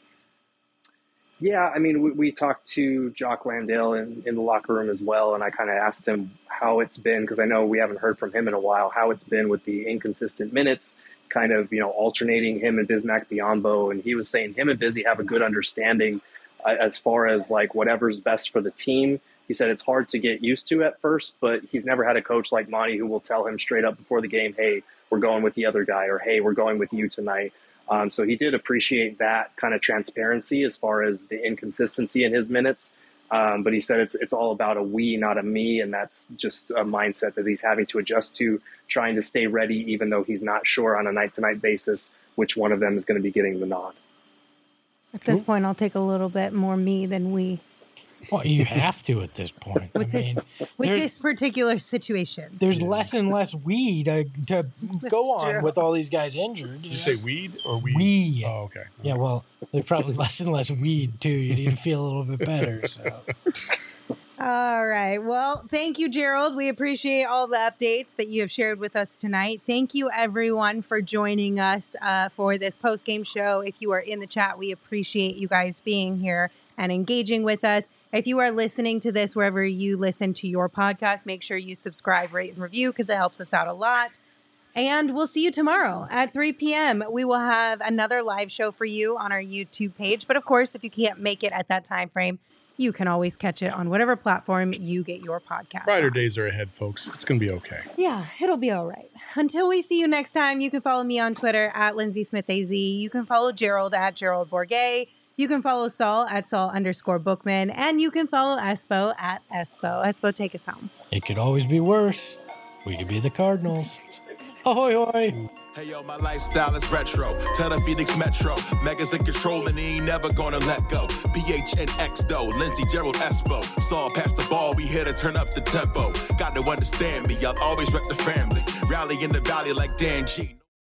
S5: Yeah, I mean, we, we talked to Jock Landale in, in the locker room as well, and I kind of asked him how it's been, because I know we haven't heard from him in a while, how it's been with the inconsistent minutes, kind of, you know, alternating him and Bismack Biyombo, and he was saying him and Busy have a good understanding uh, as far as, like, whatever's best for the team. He said it's hard to get used to at first, but he's never had a coach like Monty who will tell him straight up before the game, hey, we're going with the other guy, or hey, we're going with you tonight. Um, so he did appreciate that kind of transparency as far as the inconsistency in his minutes. Um, but he said it's it's all about a we, not a me, and that's just a mindset that he's having to adjust to, trying to stay ready, even though he's not sure on a night-to-night basis which one of them is going to be getting the nod.
S1: At this point, I'll take a little bit more me than we.
S3: Well, you have to at this point.
S1: With
S3: I mean,
S1: this with
S3: there-
S1: this particular situation.
S3: there's less and less we to, to go on
S1: true.
S3: with all these guys injured.
S2: Did you say weed or weed?
S3: We.
S2: Oh, okay.
S3: Yeah, well, there's probably less and less weed too. You need to feel a little bit better. So
S1: All right. Well, thank you, Gerald. We appreciate all the updates that you have shared with us tonight. Thank you, everyone, for joining us uh, for this post-game show. If you are in the chat, we appreciate you guys being here and engaging with us. If you are listening to this wherever you listen to your podcast, make sure you subscribe, rate, and review because it helps us out a lot. And we'll see you tomorrow at three p.m. We will have another live show for you on our YouTube page. But of course, if you can't make it at that time frame, you can always catch it on whatever platform you get your podcast.
S2: Brighter
S1: on.
S2: days are ahead, folks. It's going to be okay.
S1: Yeah, it'll be all right. Until we see you next time, you can follow me on Twitter at Lindsay Smith A Z. You can follow Gerald at Gerald Bourget. You can follow Saul at Saul underscore Bookman. And you can follow Espo at Espo. Espo, take us home.
S3: It could always be worse. We could be the Cardinals. Ahoy, hoy.
S6: Hey, yo, my lifestyle is retro. Tell the Phoenix Metro. Megas in control and he ain't never gonna let go. P H N X, though. Lindsay, Gerald, Espo. Saw past the ball, we here to turn up the tempo. Got to understand me, I'll always rep the family. Rally in the valley like Dan G.